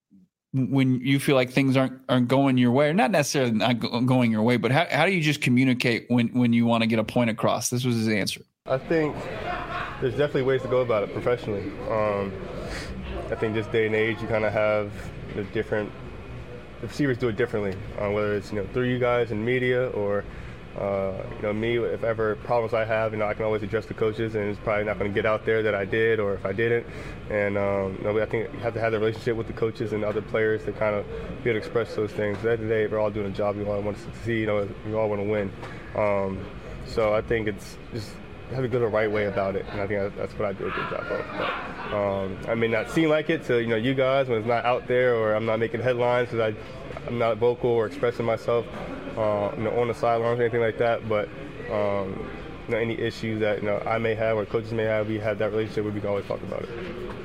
when you feel like things aren't aren't going your way, or not necessarily not going your way, but how, how do you just communicate when, when you want to get a point across? This was his answer. I think there's definitely ways to go about it professionally. Um, I think this day and age, you kind of have the different, the receivers do it differently, uh, whether it's, you know, through you guys in media or Uh, you know, me, if ever problems I have, you know, I can always address the coaches, and it's probably not going to get out there that I did or if I didn't. And um, you know, I think you have to have the relationship with the coaches and other players to kind of be able to express those things. At the end of the day, we're all doing a job. We all want to succeed. You know, we all want to win. Um, so I think it's just have to go the right way about it, and I think that's what I do a good job of. But, um, I may not seem like it to you know you guys when it's not out there, or I'm not making headlines because I I'm not vocal or expressing myself, uh, you know, on the sidelines or anything like that. But um, you know, any issues that you know I may have or coaches may have, we have that relationship where we can always talk about it.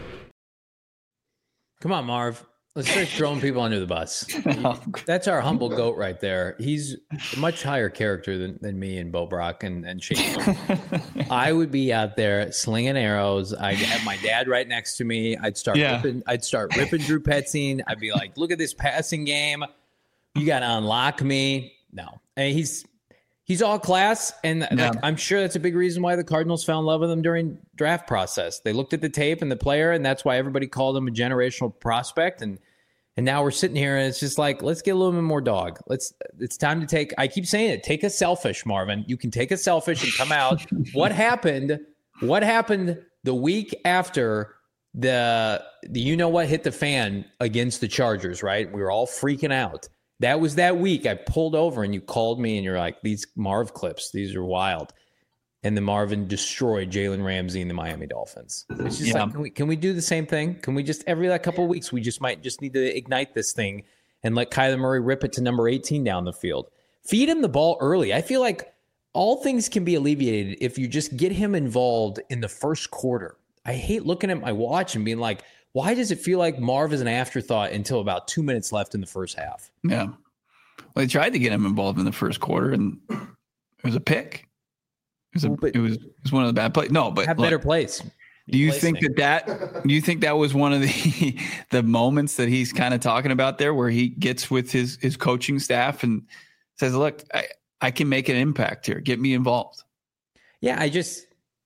Come on, Marv. Let's start throwing people under the bus. That's our humble goat right there. He's a much higher character than, than me and Bo Brock and, and Shane. I would be out there slinging arrows. I'd have my dad right next to me. I'd start yeah. ripping, I'd start ripping Drew Petzing. I'd be like, look at this passing game. You got to unlock me. No. And he's he's all class. And yeah. like, I'm sure that's a big reason why the Cardinals fell in love with him during draft process. They looked at the tape and the player, and that's why everybody called him a generational prospect. And and now we're sitting here, and it's just like, let's get a little bit more dog. Let's. It's time to take. I keep saying it. Take a selfish, Marvin. You can take a selfish and come out. What happened? What happened the week after the the you know what hit the fan against the Chargers? Right. We were all freaking out. That was that week. I pulled over and you called me and you're like, these Marv clips, these are wild. And then Marvin destroyed Jalen Ramsey and the Miami Dolphins. It's just yeah. like, can we, can we do the same thing? Can we just, every like couple of weeks, we just might just need to ignite this thing and let Kyler Murray rip it to number eighteen down the field. Feed him the ball early. I feel like all things can be alleviated if you just get him involved in the first quarter. I hate looking at my watch and being like, why does it feel like Marv is an afterthought until about two minutes left in the first half? Yeah. Well, they tried to get him involved in the first quarter, and it was a pick. It was, a, it was it was one of the bad plays. No, but have look, better plays. Do you think that that do you think that was one of the the moments that he's kind of talking about there, where he gets with his his coaching staff and says, "Look, I, I can make an impact here. Get me involved." Yeah, I just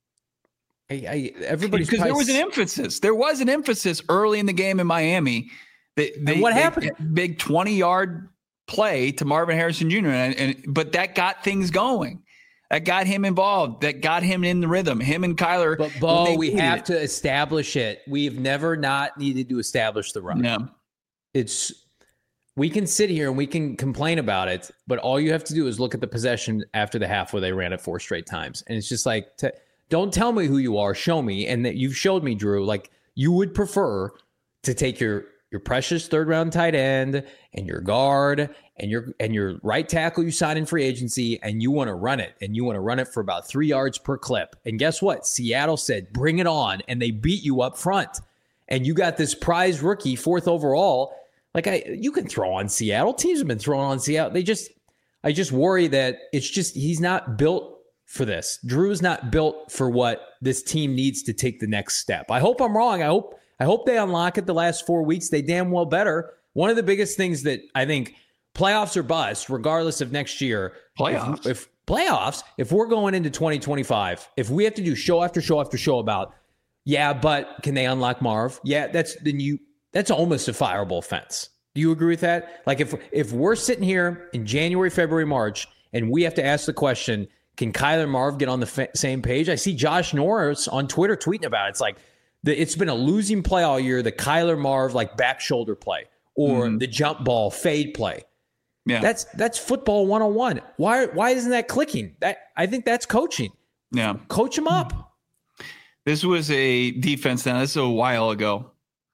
I, I everybody's because there was an emphasis. There was an emphasis early in the game in Miami. They, they, and what they, happened? Big twenty yard play to Marvin Harrison Junior And, and but that got things going. That got him involved. That got him in the rhythm. Him and Kyler. But Bo, we have it. to establish it. We've never not needed to establish the run. Yeah. It's we can sit here and we can complain about it, but all you have to do is look at the possession after the half where they ran it four straight times. And it's just like, t- don't tell me who you are. Show me. And that you've showed me, Drew, like you would prefer to take your your precious third round tight end and your guard and your and your right tackle you sign in free agency, and you want to run it, and you want to run it for about three yards per clip. And guess what? Seattle said, bring it on, and they beat you up front. And you got this prize rookie, fourth overall. Like I, you can throw on Seattle. Teams have been throwing on Seattle. They just, I just worry that it's just he's not built for this. Drew's not built for what this team needs to take the next step. I hope I'm wrong. I hope. I hope they unlock it the last four weeks. They damn well better. One of the biggest things that I think playoffs or bust, regardless of next year. Playoffs. If, if playoffs, if we're going into twenty twenty-five, if we have to do show after show after show about, yeah, but can they unlock Marv? Yeah, that's then you. That's almost a fireable offense. Do you agree with that? Like if if we're sitting here in January, February, March, and we have to ask the question, can Kyler and Marv get on the fa- same page? I see Josh Norris on Twitter tweeting about it. It's like, The, it's been a losing play all year, the Kyler Marv like back shoulder play or mm-hmm. the jump ball fade play. Yeah. That's that's football one oh one. Why why isn't that clicking? That I think that's coaching. Yeah. Coach them up. This was a defense now. This is a while ago.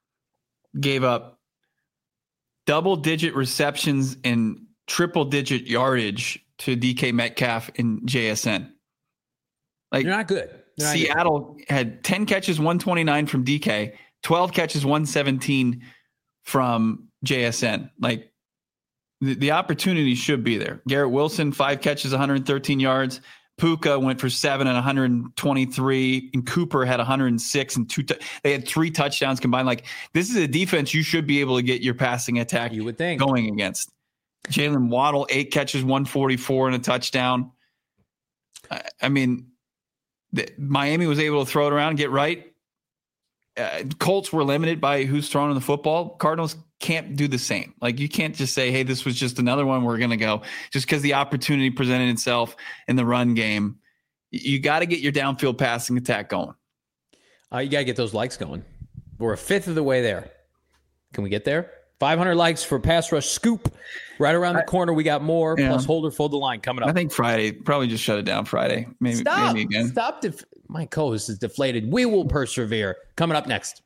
Gave up double digit receptions and triple digit yardage to D K Metcalf and J S N. Like They're not good. Seattle had ten catches, one twenty-nine from D K, twelve catches, one seventeen from J S N. Like the, the opportunity should be there. Garrett Wilson, five catches, one hundred thirteen yards. Puka went for seven and one hundred twenty-three. And Cooper had one hundred six and two. T- they had three touchdowns combined. Like this is a defense you should be able to get your passing attack you would think going against. Jalen Waddle, eight catches, one forty-four and a touchdown. I, I mean, The, Miami was able to throw it around, get right. uh, Colts were limited by who's throwing the football. Cardinals can't do the same. Like, you can't just say, hey, this was just another one we're going to go, just because the opportunity presented itself in the run game. You got to get your downfield passing attack going. Uh, you got to get those likes going. We're a fifth of the way there. Can we get there? five hundred likes for Pass Rush Scoop. Right around the corner, we got more. Yeah. Plus, Holder Fold the Line coming up. I think Friday. Probably just shut it down Friday. Maybe, Stop. maybe again. Stop. Def- My co-host is deflated. We will persevere. Coming up next.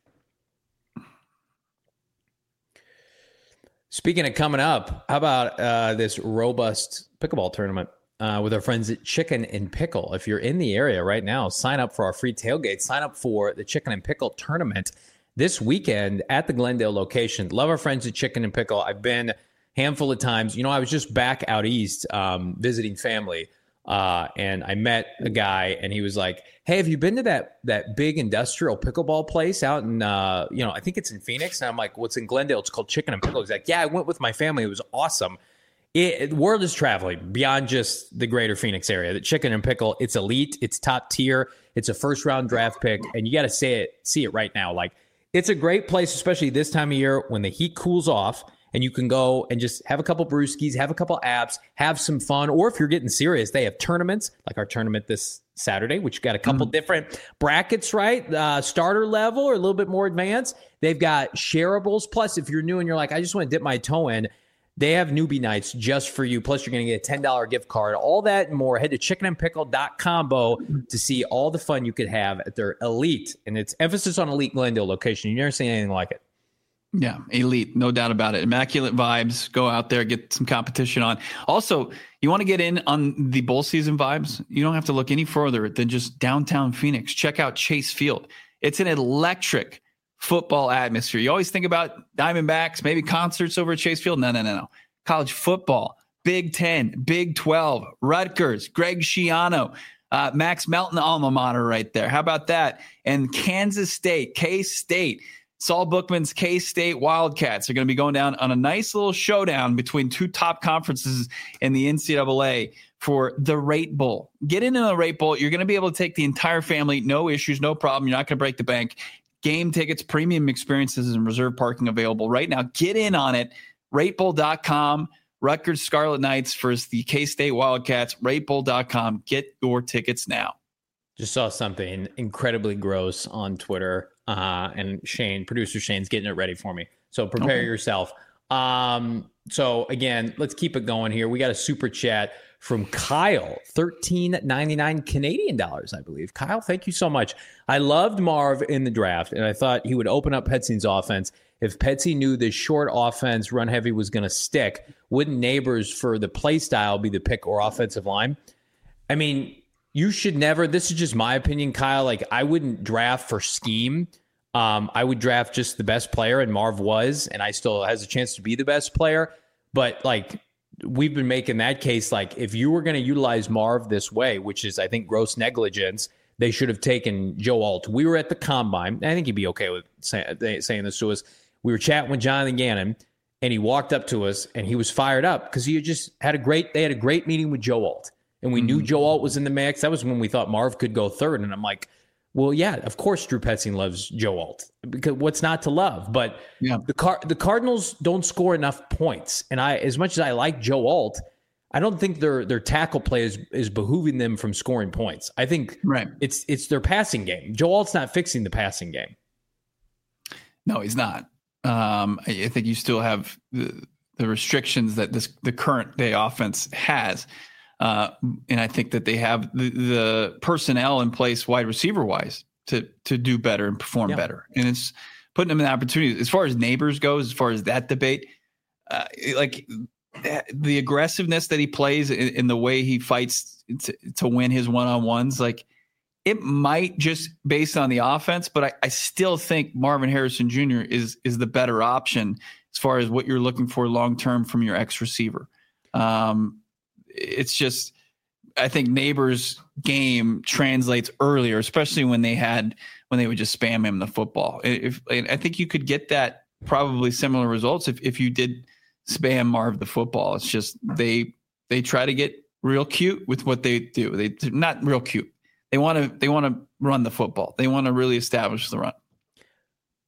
Speaking of coming up, how about uh, this robust pickleball tournament uh, with our friends at Chicken and Pickle? If you're in the area right now, sign up for our free tailgate. Sign up for the Chicken and Pickle tournament this weekend at the Glendale location. Love our friends at Chicken and Pickle. I've been a handful of times. You know, I was just back out east um, visiting family, uh, and I met a guy, and he was like, hey, have you been to that that big industrial pickleball place out in, uh, you know, I think it's in Phoenix? And I'm like, what's in Glendale? It's called Chicken and Pickle. He's like, yeah, I went with my family. It was awesome. It, the world is traveling beyond just the greater Phoenix area. The Chicken and Pickle, it's elite. It's top tier. It's a first-round draft pick, and you got to see it, see it right now. Like, it's a great place, especially this time of year when the heat cools off and you can go and just have a couple brewskis, have a couple apps, have some fun. Or if you're getting serious, they have tournaments like our tournament this Saturday, which got a couple mm-hmm. different brackets, right? Uh, starter level or a little bit more advanced. They've got shareables. Plus, if you're new and you're like, I just want to dip my toe in, they have newbie nights just for you. Plus, you're going to get a ten dollars gift card. All that and more. Head to chicken and pickle dot combo to see all the fun you could have at their elite. And it's emphasis on elite Glendale location. You've never seen anything like it. Yeah, elite. No doubt about it. Immaculate vibes. Go out there, get some competition on. Also, you want to get in on the bowl season vibes? You don't have to look any further than just downtown Phoenix. Check out Chase Field. It's an electric football atmosphere. You always think about Diamondbacks, maybe concerts over at Chase Field. No, no, no, no. College football, Big Ten, Big twelve, Rutgers, Greg Schiano, uh, Max Melton alma mater right there. How about that? And Kansas State, K-State, Saul Bookman's K-State Wildcats are going to be going down on a nice little showdown between two top conferences in the N C double A for the Rate Bowl. Get into the Rate Bowl. You're going to be able to take the entire family. No issues, no problem. You're not going to break the bank. Game tickets, premium experiences, and reserve parking available right now. Get in on it. rate bowl dot com. Rutgers Scarlet Knights versus the K-State Wildcats. rate bowl dot com. Get your tickets now. Just saw something incredibly gross on Twitter, uh, and Shane, producer Shane's getting it ready for me. So prepare okay. yourself. Um, so again, let's keep it going here. We got a super chat from Kyle, thirteen ninety-nine Canadian dollars, I believe. Kyle, thank you so much. I loved Marv in the draft, and I thought he would open up Petzine's offense. If Petzi knew this short offense, run heavy, was going to stick, wouldn't Neighbors for the play style be the pick or offensive line? I mean, you should never, this is just my opinion, Kyle, like I wouldn't draft for scheme. Um, I would draft just the best player, and Marv was, and I still has a chance to be the best player. But like, we've been making that case, like if you were going to utilize Marv this way, which is, I think, gross negligence, they should have taken Joe Alt. We were at the combine. I think he'd be okay with say, saying this to us. We were chatting with Jonathan Gannon, and he walked up to us, and he was fired up because he had just had a great, they had a great meeting with Joe Alt. And we mm-hmm. knew Joe Alt was in the mix. That was when we thought Marv could go third. And I'm like, well, yeah, of course Drew Petzing loves Joe Alt, because what's not to love? But yeah. the Car- the Cardinals don't score enough points. And I, as much as I like Joe Alt, I don't think their their tackle play is, is behooving them from scoring points. I think right. it's it's their passing game. Joe Alt's not fixing the passing game. No, he's not. Um, I think you still have the, the restrictions that this the current day offense has. Uh, and I think that they have the, the personnel in place, wide receiver wise, to to do better and perform yeah. better. And it's putting them in the opportunity. As far as Neighbors goes, as far as that debate, uh, like the aggressiveness that he plays in, in the way he fights to, to win his one on ones, like it might just based on the offense, but I, I still think Marvin Harrison Junior is is the better option as far as what you're looking for long term from your ex receiver. Um, It's just, I think Neighbors' game translates earlier, especially when they had when they would just spam him the football. If I think you could get that probably similar results if, if you did spam Marv the football. It's just they they try to get real cute with what they do. They not real cute. They want to they want to run the football. They want to really establish the run.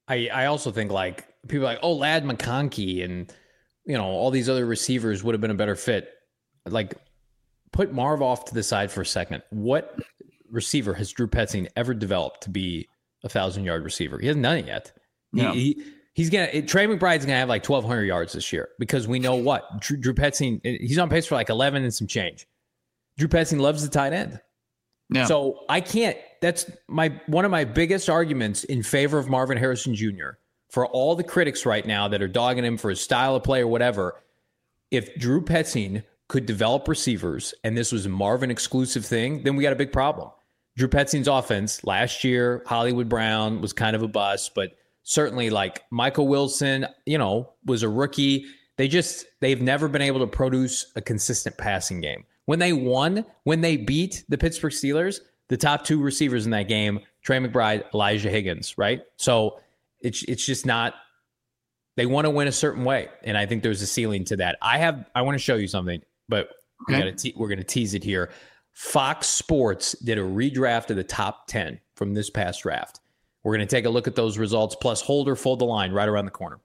I, I also think like people are like, oh, Ladd McConkey and, you know, all these other receivers would have been a better fit. Like, put Marv off to the side for a second. What receiver has Drew Petzing ever developed to be a thousand yard receiver? He hasn't done it yet. Yeah. He, he he's gonna it, Trey McBride's gonna have like twelve hundred yards this year because we know what Drew, Drew Petzing, he's on pace for like eleven and some change. Drew Petzing loves the tight end. Yeah. So I can't. That's my one of my biggest arguments in favor of Marvin Harrison Junior For all the critics right now that are dogging him for his style of play or whatever, if Drew Petzing could develop receivers and this was a Marvin exclusive thing, then we got a big problem. Drew Petzing's offense last year, Hollywood Brown was kind of a bust, but certainly like Michael Wilson, you know, was a rookie. They just, they've never been able to produce a consistent passing game. When they won, when they beat the Pittsburgh Steelers, the top two receivers in that game, Trey McBride, Elijah Higgins, right? So it's it's just not, they want to win a certain way. And I think there's a ceiling to that. I have, I want to show you something, but we okay. gotta te- we're going to tease it here. Fox Sports did a redraft of the top ten from this past draft. We're going to take a look at those results, plus hold or fold the line right around the corner.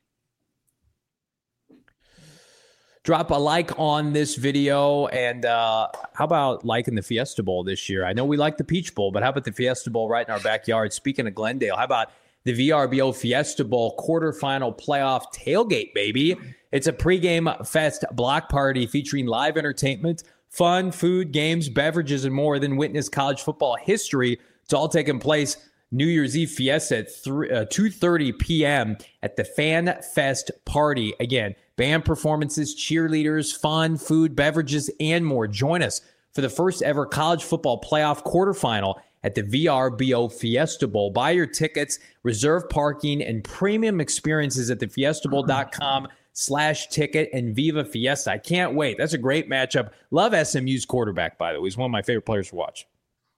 Drop a like on this video, and uh, how about liking the Fiesta Bowl this year? I know we like the Peach Bowl, but how about the Fiesta Bowl right in our backyard? Speaking of Glendale, how about the V R B O Fiesta Bowl quarterfinal playoff tailgate, baby? It's a pregame fest block party featuring live entertainment, fun, food, games, beverages, and more than witness college football history. It's all taking place New Year's Eve Fiesta at two thirty p.m. at the Fan Fest Party. Again, band performances, cheerleaders, fun, food, beverages, and more. Join us for the first ever college football playoff quarterfinal at the V R B O Fiesta Bowl. Buy your tickets, reserve parking, and premium experiences at the fiesta bowl dot com slash ticket and Viva Fiesta. I can't wait. That's a great matchup. Love S M U's quarterback, by the way. He's one of my favorite players to watch.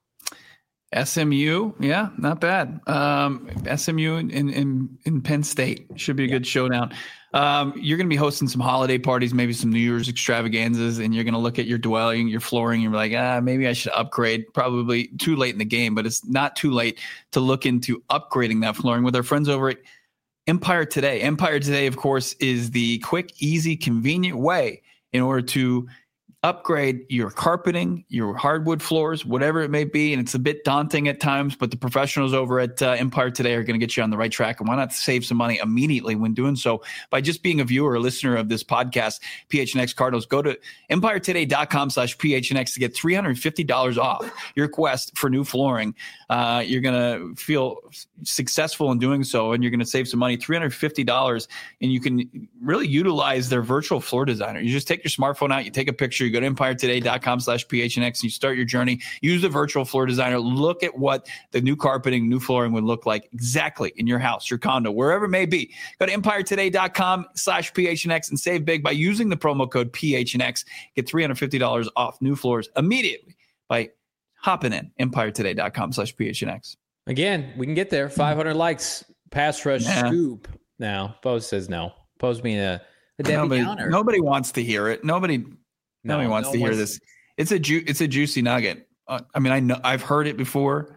S M U, yeah, not bad. Um, S M U in, in in Penn State should be a yeah. good showdown. Um, you're going to be hosting some holiday parties, maybe some New Year's extravaganzas, and you're going to look at your dwelling, your flooring, and you're like, ah, maybe I should upgrade. Probably too late in the game, but it's not too late to look into upgrading that flooring with our friends over at Empire Today. Empire Today, of course, is the quick, easy, convenient way in order to upgrade your carpeting, your hardwood floors, whatever it may be. And it's a bit daunting at times, but the professionals over at uh, Empire Today are going to get you on the right track. And why not save some money immediately when doing so by just being a viewer or listener of this podcast, P H N X Cardinals. Go to empire today dot com slash P H N X to get three hundred fifty dollars off your quest for new flooring. Uh, you're going to feel successful in doing so, and you're going to save some money, three hundred fifty dollars, and you can really utilize their virtual floor designer. You just take your smartphone out, you take a picture, you go to empire today dot com slash P H N X and you start your journey. Use the virtual floor designer. Look at what the new carpeting, new flooring would look like exactly in your house, your condo, wherever it may be. Go to empire today dot com slash P H N X and save big by using the promo code P H N X. Get three hundred fifty dollars off new floors immediately by hopping in empire today dot com slash P H N X. Again, we can get there. five hundred likes. Pass rush yeah. scoop. Now, Pose says no. Pose being a, a Debbie nobody, Downer. Nobody wants to hear it. Nobody No, Nobody wants no to hear wants this. It's a ju- it's a juicy nugget. Uh, I mean, I know I've heard it before.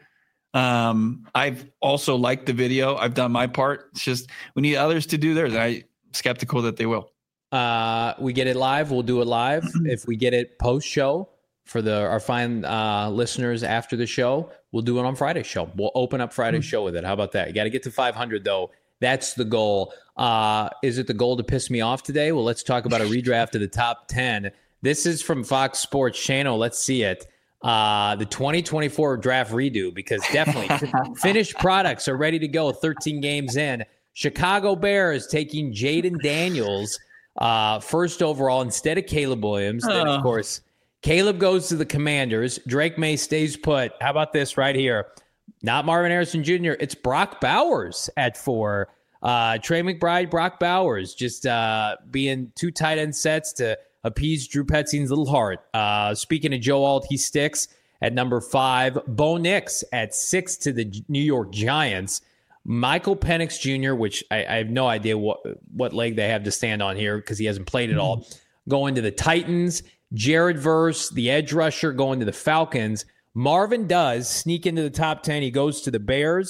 Um, I've also liked the video. I've done my part. It's just we need others to do theirs. I'm skeptical that they will. Uh, we get it live. We'll do it live. If we get it post show for the our fine uh, listeners after the show, we'll do it on Friday's show. We'll open up Friday's mm-hmm. show with it. How about that? You got to get to five hundred though. That's the goal. Uh, is it the goal to piss me off today? Well, let's talk about a redraft of the top ten. This is from Fox Sports Channel. Let's see it. Uh, the twenty twenty-four draft redo, because definitely finished products are ready to go. thirteen games in. Chicago Bears taking Jaden Daniels uh, first overall instead of Caleb Williams. Then, of course, Caleb goes to the Commanders. Drake May stays put. How about this right here? Not Marvin Harrison Junior It's Brock Bowers at four. Uh, Trey McBride, Brock Bowers, just uh, being two tight end sets to appease Drew Petzing's little heart. Uh, speaking of Joe Alt, he sticks at number five. Bo Nix at six to the New York Giants. Michael Penix Junior, which I, I have no idea what, what leg they have to stand on here because he hasn't played at all, going to the Titans. Jared Verse, the edge rusher, going to the Falcons. Marvin does sneak into the top ten. He goes to the Bears.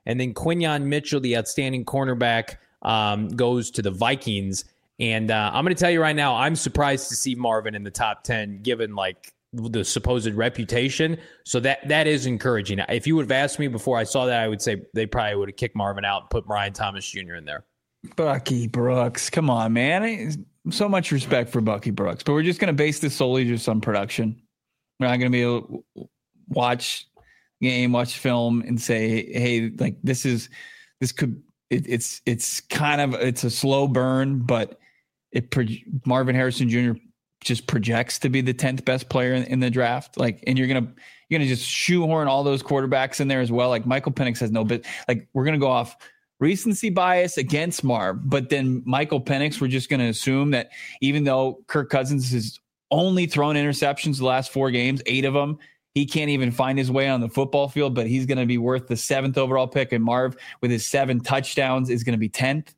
And then Quinyon Mitchell, the outstanding cornerback, um, goes to the Vikings. And uh, I'm going to tell you right now, I'm surprised to see Marvin in the top ten, given like the supposed reputation. So that that is encouraging. If you would have asked me before I saw that, I would say they probably would have kicked Marvin out and put Brian Thomas Junior in there. Bucky Brooks, come on, man. So much respect for Bucky Brooks, but we're just going to base this solely just on production. We're not going to be able to watch game, watch film, and say, "Hey, like this is this could." It, it's it's kind of it's a slow burn, but it Marvin Harrison Junior just projects to be the tenth best player in, in the draft. Like, and you're gonna you're gonna just shoehorn all those quarterbacks in there as well. Like Michael Penix has no bit. Like we're gonna go off recency bias against Marv, but then Michael Penix, we're just gonna assume that even though Kirk Cousins has only thrown interceptions the last four games, eight of them. He can't even find his way on the football field, but he's going to be worth the seventh overall pick. And Marv, with his seven touchdowns, is going to be tenth.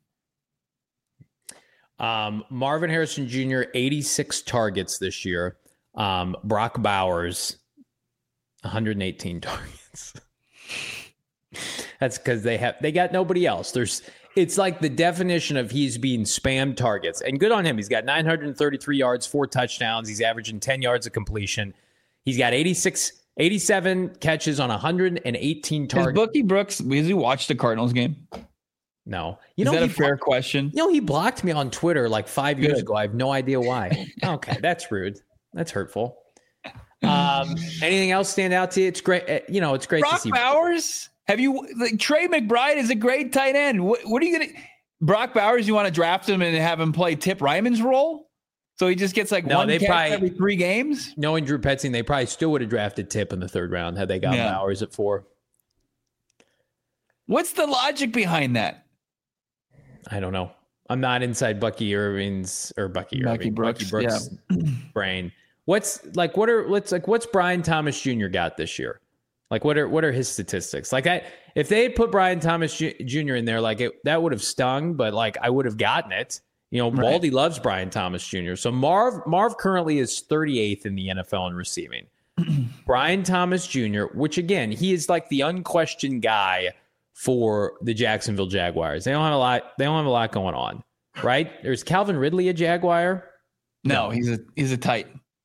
Um, Marvin Harrison Junior, eighty-six targets this year. Um, Brock Bowers, one hundred eighteen targets. That's because they have they got nobody else. There's it's like the definition of he's being spammed targets. And good on him. He's got nine hundred thirty-three yards, four touchdowns. He's averaging ten yards of completion. He's got eighty-six, eighty-seven catches on one hundred eighteen targets. Has Bucky Brooks, has he watched the Cardinals game? No. You Is know, that a he fair blocked, question? You know, he blocked me on Twitter like five years Good. ago. I have no idea why. Okay, that's rude. That's hurtful. Um, anything else stand out to you? It's great. You know, it's great Brock to see. Bowers? Have you, like, Trey McBride is a great tight end. What, what are you going to, Brock Bowers, you want to draft him and have him play Tip Ryman's role? So he just gets like No, one they catch probably- every three games? Knowing Drew Petzing, they probably still would have drafted Tip in the third round had they got Yeah. Bowers at four. What's the logic behind that? I don't know. I'm not inside Bucky Irving's or Bucky Bucky Irving, Brooks, Bucky Brooks brain. What's like? What are let's like? What's Brian Thomas Junior got this year? Like, what are what are his statistics? Like, I if they had put Brian Thomas Junior in there, like it, that would have stung, but like I would have gotten it. You know, Right. Baldy loves Brian Thomas Junior So Marv Marv currently is thirty-eighth in the N F L in receiving. Brian Thomas Junior, which again, he is like the unquestioned guy for the Jacksonville Jaguars. They don't have a lot. They don't have a lot going on, right? There's Calvin Ridley, a Jaguar. No, he's a he's a tight.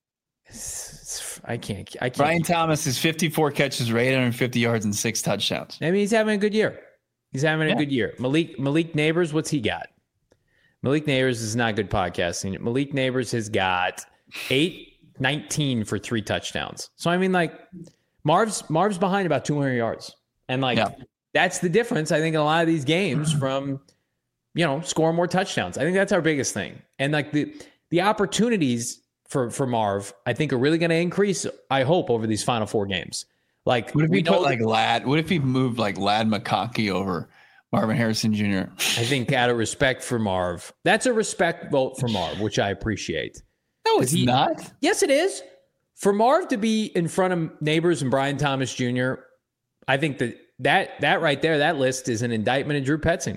I can't. I can't. Brian Thomas is fifty-four catches for eight hundred fifty yards and six touchdowns. I mean, he's having a good year. He's having a Yeah. good year. Malik Malik Neighbors, what's he got? Malik Neighbors is not good podcasting. Malik Neighbors has got eight nineteen for three touchdowns. So I mean, like Marv's Marv's behind about two hundred yards, and like Yeah. that's the difference. I think in a lot of these games from you know scoring more touchdowns. I think that's our biggest thing, and like the the opportunities for for Marv, I think are really going to increase. I hope over these final four games. Like What if we we know put like Lad? What if he moved like Lad McConkey over Marvin Harrison Junior? I think out of respect for Marv, that's a respect vote for Marv, which I appreciate. No, it's he- not. Yes, it is. For Marv to be in front of Neighbors and Brian Thomas Junior, I think that that that right there, that list is an indictment of Drew Petzing.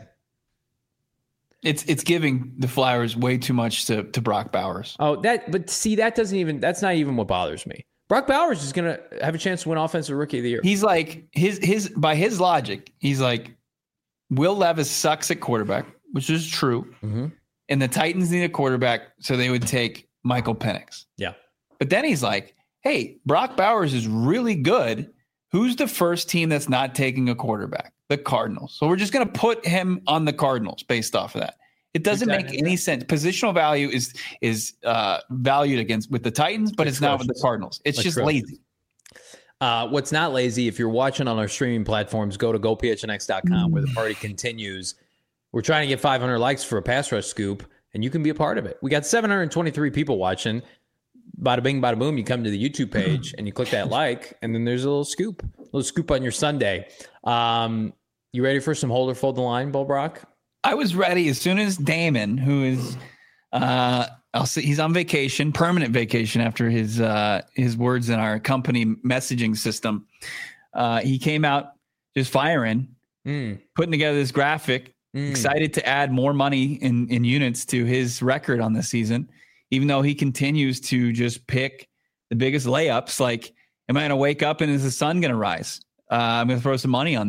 It's it's giving the flowers way too much to, to Brock Bowers. Oh, that but see, that doesn't even that's not even what bothers me. Brock Bowers is gonna have a chance to win Offensive Rookie of the Year. He's like his his by his logic, he's like Will Levis sucks at quarterback, which is true. Mhm. And the Titans need a quarterback, so they would take Michael Penix. Yeah. But then he's like, hey, Brock Bowers is really good. Who's the first team that's not taking a quarterback? The Cardinals. So we're just going to put him on the Cardinals based off of that. It doesn't make Exactly. any sense. Positional value is is uh, valued against with the Titans, but it's not with the Cardinals. It's just Atrocious. lazy. Uh, what's not lazy, if you're watching on our streaming platforms, go to go p h n x dot com where the party continues. We're trying to get five hundred likes for a pass rush scoop, and you can be a part of it. We got seven hundred twenty-three people watching. Bada bing, bada boom. You come to the YouTube page and you click that like, and then there's a little scoop, a little scoop on your Sunday. Um, you ready for some hold or fold the line, Bo Brock? I was ready as soon as Damon, who is, uh, I'll see, he's on vacation, permanent vacation after his uh, his words in our company messaging system. Uh, he came out just firing, Mm, putting together this graphic, mm. excited to add more money in in units to his record on this season, even though he continues to just pick the biggest layups. Like, am I going to wake up and is the sun going to rise? Uh, I'm going to throw some money on that.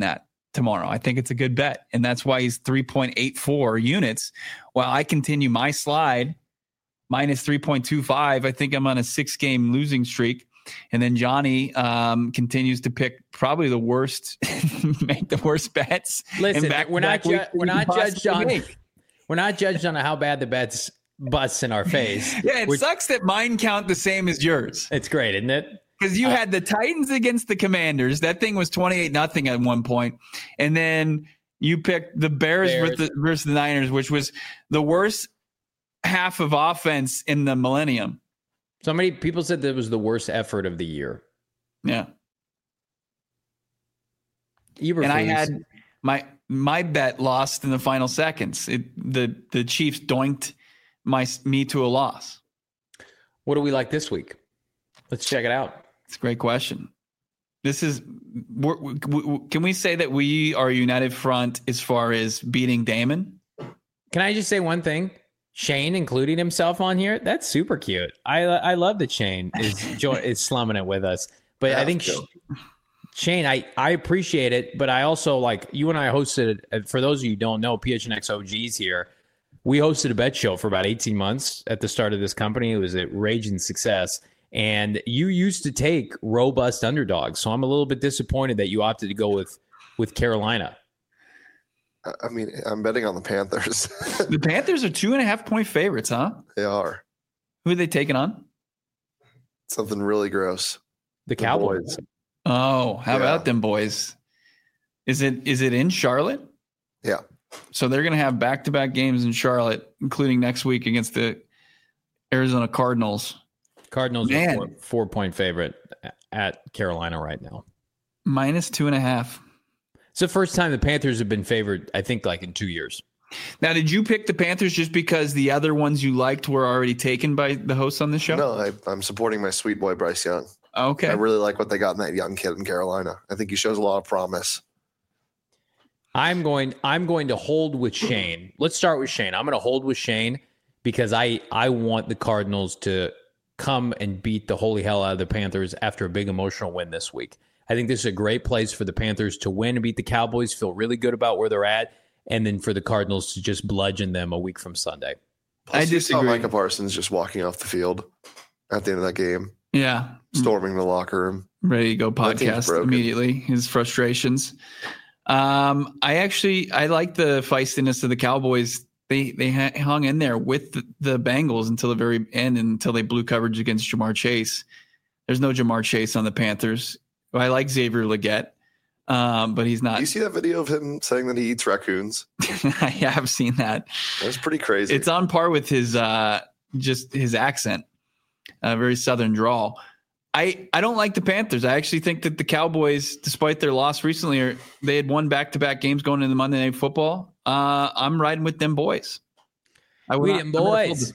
tomorrow. I think it's a good bet. And that's why he's three point eight four units. While I continue my slide minus three point two five, I think I'm on a six game losing streak. And then Johnny um, continues to pick probably the worst, make the worst bets. Listen, we're not ju- we're not judged on make. we're not judged on how bad the bets bust in our face. Yeah, it we're, sucks that mine count the same as yours. It's great, isn't it? Because you uh, had the Titans against the Commanders. That thing was twenty-eight nothing at one point. And then you picked the Bears, Bears. With the, versus the Niners, which was the worst half of offense in the millennium. So many people said that was the worst effort of the year. Yeah. Eberflus. And I had my my bet lost in the final seconds. It, the the Chiefs doinked my me to a loss. What do we like this week? Let's check it out. It's a great question. This is we're, we, can we say that we are a united front as far as beating Damon? Can I just say one thing? Shane including himself on here, that's super cute. I I love that Shane is is slumming it with us. But I think Shane, I, I appreciate it, but I also like you and I hosted, for those of you who don't know, P H N X O Gs here, we hosted a bet show for about eighteen months at the start of this company. It was a raging success. And you used to take robust underdogs. So I'm a little bit disappointed that you opted to go with, with Carolina. I mean, I'm betting on the Panthers. The Panthers are two and a half point favorites, huh? They are. Who are they taking on? Something really gross. The, the Cowboys. Boys. Oh, how yeah. about them boys? Is it is it in Charlotte? Yeah. So they're going to have back-to-back games in Charlotte, including next week against the Arizona Cardinals. Cardinals are four, four-point favorite at Carolina right now. Minus two and a half. It's the first time the Panthers have been favored, I think, like in two years. Now, did you pick the Panthers just because the other ones you liked were already taken by the hosts on the show? No, I, I'm supporting my sweet boy, Bryce Young. Okay. I really like what they got in that young kid in Carolina. I think he shows a lot of promise. I'm going I'm going to hold with Shane. Let's start with Shane. I'm going to hold with Shane because I, I want the Cardinals to come and beat the holy hell out of the Panthers after a big emotional win this week. I think this is a great place for the Panthers to win and beat the Cowboys, feel really good about where they're at, and then for the Cardinals to just bludgeon them a week from Sunday. Plus, I just saw Micah Parsons just walking off the field at the end of that game. Yeah. Storming the locker room. Ready to go podcast immediately. His frustrations. Um, I actually, I like the feistiness of the Cowboys. They they hung in there with the, the Bengals until the very end, until they blew coverage against Jamar Chase. There's no Jamar Chase on the Panthers. I like Xavier Legette, um, but he's not. Do you see that video of him saying that he eats raccoons? I have seen that. That's pretty crazy. It's on par with his uh, just his accent, a uh, very Southern drawl. I, I don't like the Panthers. I actually think that the Cowboys, despite their loss recently, are, they had won back-to-back games going into Monday Night Football. Uh, I'm riding with them boys. I would we them boys.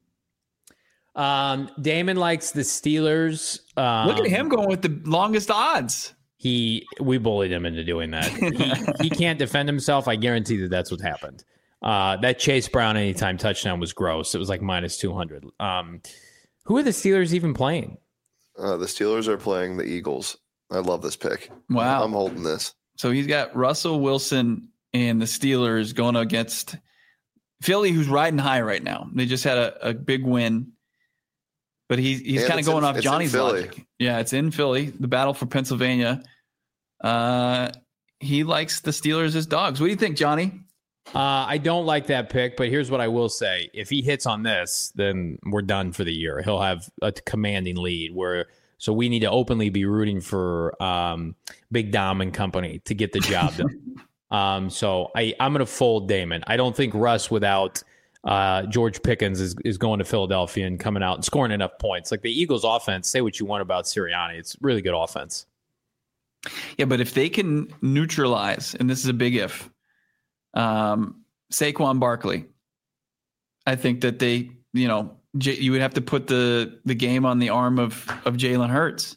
Um, Damon likes the Steelers. Um, Look at him going with the longest odds. He we bullied him into doing that. He, he can't defend himself. I guarantee that that's what happened. Uh, that Chase Brown anytime touchdown was gross. It was like minus two hundred. Um, who are the Steelers even playing? Uh, the Steelers are playing the Eagles. I love this pick. Wow. I'm holding this. So he's got Russell Wilson and the Steelers going against Philly, who's riding high right now. They just had a, a big win. But he, he's kind of going in, off Johnny's logic. Yeah, it's in Philly, the battle for Pennsylvania. Uh, he likes the Steelers as dogs. What do you think, Johnny? Uh, I don't like that pick, but here's what I will say. If he hits on this, then we're done for the year. He'll have a commanding lead. Where So we need to openly be rooting for um, Big Dom and company to get the job done. um, so I, I'm going to fold Damon. I don't think Russ without uh, George Pickens is, is going to Philadelphia and coming out and scoring enough points. Like the Eagles offense, say what you want about Sirianni. It's really good offense. Yeah, but if they can neutralize, and this is a big if, Um, Saquon Barkley, I think that they, you know, J- you would have to put the the game on the arm of of Jalen Hurts.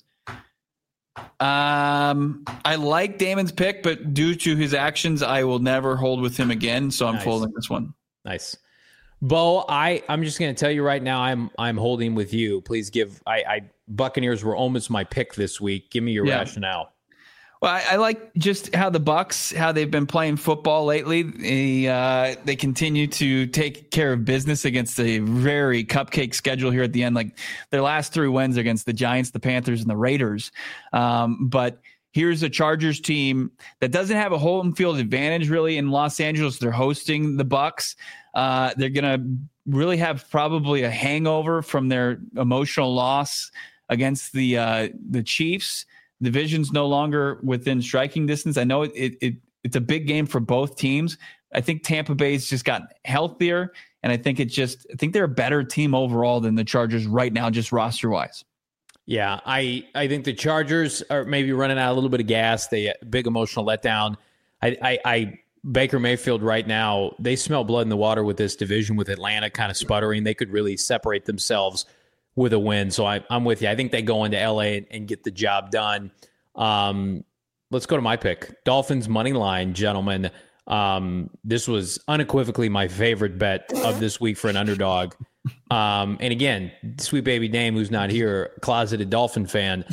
Um, I like Damon's pick, but due to his actions, I will never hold with him again. So I'm nice. folding this one. Nice, Bo. I I'm just going to tell you right now, I'm I'm holding with you. Please give. I, I Buccaneers were almost my pick this week. Give me your yeah. rationale. Well, I, I like just how the Bucs, how they've been playing football lately. They, uh, they continue to take care of business against a very cupcake schedule here at the end. Like their last three wins against the Giants, the Panthers, and the Raiders. Um, but here's a Chargers team that doesn't have a home field advantage really in Los Angeles. They're hosting the Bucs. Uh, they're going to really have probably a hangover from their emotional loss against the uh, the Chiefs. Division's no longer within striking distance. I know it, it, it it's a big game for both teams. I think Tampa Bay's just gotten healthier, and I think it just I think they're a better team overall than the Chargers right now, just roster wise. Yeah, I I think the Chargers are maybe running out a little bit of gas. They big emotional letdown. I I, I Baker Mayfield right now, they smell blood in the water with this division with Atlanta kind of sputtering. They could really separate themselves with a win. So I, I'm with you. I think they go into L A and, and get the job done. Um, let's go to my pick. Dolphins money line, gentlemen. Um, this was unequivocally my favorite bet of this week for an underdog. Um, and again, sweet baby Dame, who's not here, closeted Dolphin fan.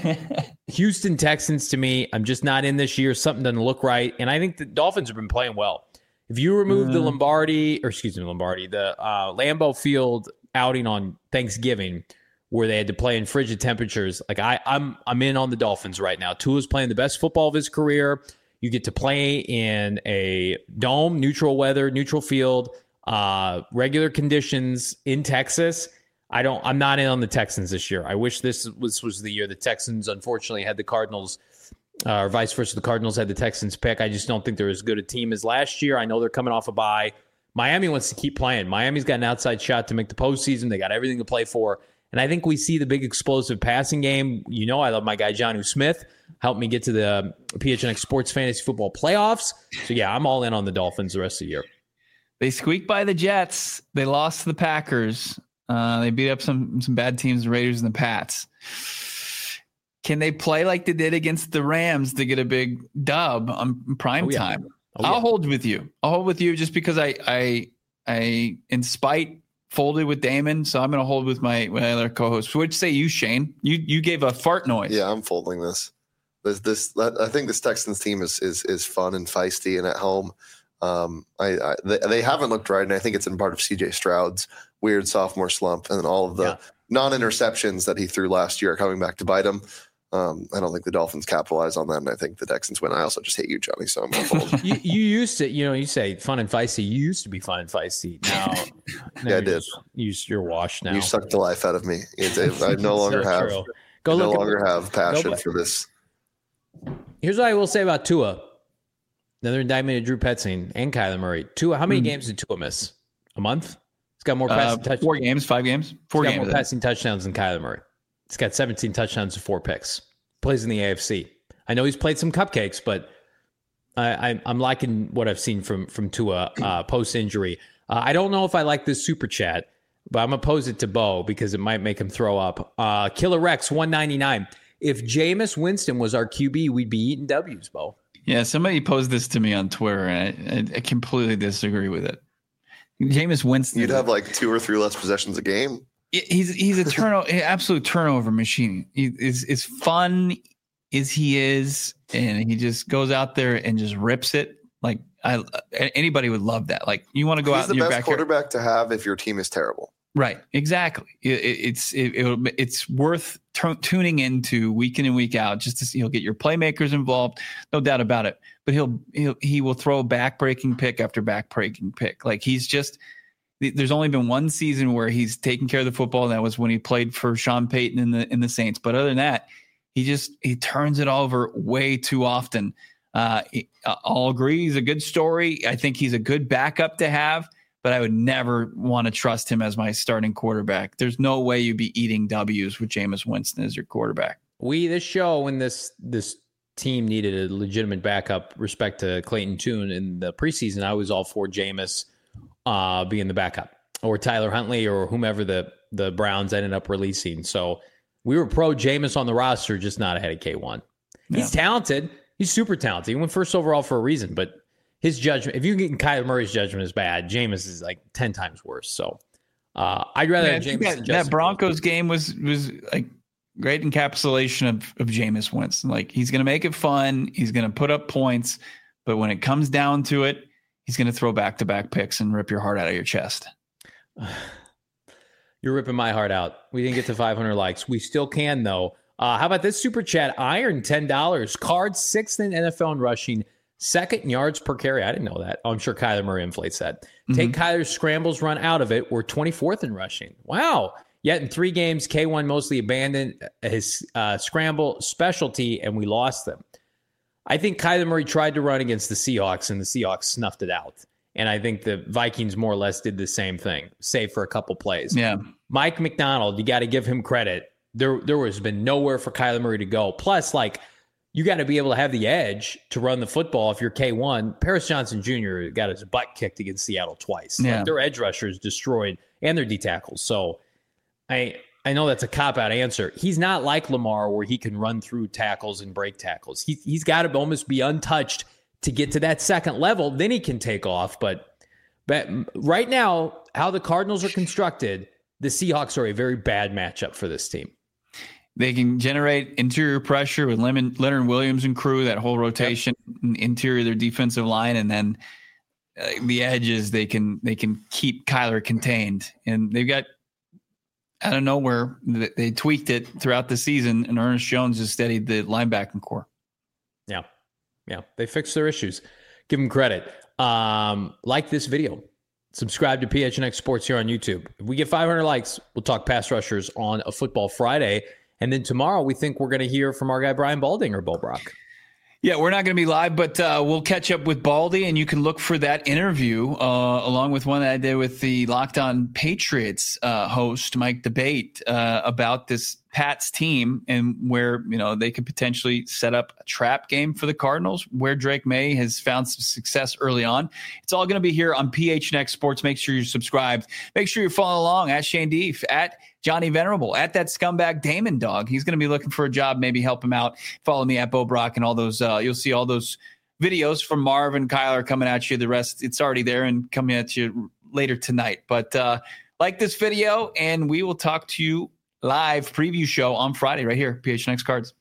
Houston Texans, to me, I'm just not in this year. Something doesn't look right. And I think the Dolphins have been playing well. If you remove mm. the Lombardi, or excuse me, Lombardi, the uh, Lambeau Field outing on Thanksgiving where they had to play in frigid temperatures, like I, I'm I'm in on the Dolphins right now. Tua's playing the best football of his career. You get to play in a dome, neutral weather, neutral field, uh, regular conditions in Texas. I don't. I'm not in on the Texans this year. I wish this was was the year the Texans unfortunately had the Cardinals, uh, or vice versa. The Cardinals had the Texans pick. I just don't think they're as good a team as last year. I know they're coming off a bye. Miami wants to keep playing. Miami's got an outside shot to make the postseason. They got everything to play for. And I think we see the big explosive passing game. You know, I love my guy, Jonnu Smith. Helped me get to the P H N X Sports Fantasy Football Playoffs. So, yeah, I'm all in on the Dolphins the rest of the year. They squeaked by the Jets. They lost to the Packers. Uh, they beat up some some bad teams, the Raiders and the Pats. Can they play like they did against the Rams to get a big dub on prime oh, yeah. time? Oh, yeah. I'll hold with you. I'll hold with you just because I, I, I, in spite, folded with Damon, so I'm going to hold with my, my other co-host. What'd you say, you Shane? You you gave a fart noise. Yeah, I'm folding this. This this I think this Texans team is is is fun and feisty and at home. Um, I, I they, they haven't looked right, and I think it's in part of C J Stroud's weird sophomore slump and all of the yeah. non-interceptions that he threw last year are coming back to bite him. Um, I don't think the Dolphins capitalize on that, and I think the Texans win. I also just hate you, Johnny, so I'm going to fold. you, you used to, you know, you say fun and feisty. You used to be fun and feisty. Now, now yeah, I did. You, you're washed now. You sucked the life out of me. It's, it, I no longer so have. Go I look no longer have passion go, for this. Here's what I will say about Tua. Another indictment of Drew Petzing and Kyler Murray. Tua, how many mm. games did Tua miss? A month? He's got more passing uh, touchdowns. Four games, five games, four He's games. Got more passing touchdowns than Kyler Murray. He's got seventeen touchdowns and four picks. Plays in the A F C. I know he's played some cupcakes, but I, I, I'm liking what I've seen from from Tua uh, post injury. Uh, I don't know if I like this super chat, but I'm gonna pose it to Bo because it might make him throw up. Uh, Killer Rex one ninety-nine. If Jameis Winston was our Q B, we'd be eating W's, Bo. Yeah, somebody posed this to me on Twitter, and I, I completely disagree with it. Jameis Winston. You'd have like two or three less possessions a game. He's he's a turnover, absolute turnover machine. He is as fun as he is, and he just goes out there and just rips it. Like I, anybody would love that. Like you want to go he's out. The in your best backyard. Quarterback to have if your team is terrible. Right, exactly. It, it, it's it, it, it's worth t- tuning into week in and week out just to see. He'll get your playmakers involved, no doubt about it. But he'll he'll he will throw back-breaking pick after back-breaking pick. Like he's just. There's only been one season where he's taken care of the football, and that was when he played for Sean Payton in the in the Saints. But other than that, he just he turns it over way too often. Uh, I'll agree, he's a good story. I think he's a good backup to have, but I would never want to trust him as my starting quarterback. There's no way you'd be eating W's with Jameis Winston as your quarterback. We this show when this this team needed a legitimate backup, respect to Clayton Tune in the preseason, I was all for Jameis. Uh, being the backup, or Tyler Huntley, or whomever the, the Browns ended up releasing. So we were pro Jameis on the roster, just not ahead of K one. He's yeah. talented. He's super talented. He went first overall for a reason, but his judgment, if you get Kyler Murray's judgment is bad, Jameis is like ten times worse. So uh, I'd rather yeah, have Jameis. That, that Broncos game was was like great encapsulation of, of Jameis Winston. Like, he's going to make it fun. He's going to put up points. But when it comes down to it, he's going to throw back-to-back picks and rip your heart out of your chest. You're ripping my heart out. We didn't get to five hundred likes. We still can, though. Uh, how about this super chat? Iron, ten dollars. Cards, sixth in N F L in rushing, second in yards per carry. I didn't know that. Oh, I'm sure Kyler Murray inflates that. Mm-hmm. Take Kyler's scrambles run out of it. We're twenty-fourth in rushing. Wow. Yet in three games, K one mostly abandoned his uh, scramble specialty, and we lost them. I think Kyler Murray tried to run against the Seahawks, and the Seahawks snuffed it out. And I think the Vikings more or less did the same thing, save for a couple plays. Yeah. Mike McDonald, you got to give him credit. There, there has been nowhere for Kyler Murray to go. Plus, like, you got to be able to have the edge to run the football if you're K one. Paris Johnson Junior got his butt kicked against Seattle twice. Yeah. Like, their edge rushers destroyed, and their D tackles. So I I know that's a cop-out answer. He's not like Lamar where he can run through tackles and break tackles. He, he's got to almost be untouched to get to that second level. Then he can take off. But, but right now, how the Cardinals are constructed, the Seahawks are a very bad matchup for this team. They can generate interior pressure with Leonard Williams and crew, that whole rotation, yep. Interior of their defensive line, and then uh, the edges, they can they can keep Kyler contained. And they've got, out of nowhere, they tweaked it throughout the season, and Ernest Jones has steadied the linebacking core. Yeah. Yeah. They fixed their issues. Give them credit. Um, like this video. Subscribe to P H N X Sports here on YouTube. If we get five hundred likes, we'll talk pass rushers on a Football Friday. And then tomorrow, we think we're going to hear from our guy, Brian Baldinger, Bo Brock. Yeah, we're not going to be live, but uh, we'll catch up with Baldy, and you can look for that interview uh, along with one that I did with the Locked On Patriots uh, host, Mike Debate, uh, about this Pats team and where, you know, they could potentially set up a trap game for the Cardinals, where Drake May has found some success early on. It's all going to be here on P H N X Sports. Make sure you're subscribed. Make sure you're following along at Shane Deef, at Johnny Venerable, at that scumbag Damon Dog. He's going to be looking for a job. Maybe help him out. Follow me at Bo Brock and all those. Uh, you'll see all those videos from Marv and Kyler coming at you. The rest, it's already there and coming at you later tonight. But uh, like this video, and we will talk to you live preview show on Friday right here, P H N X Cards.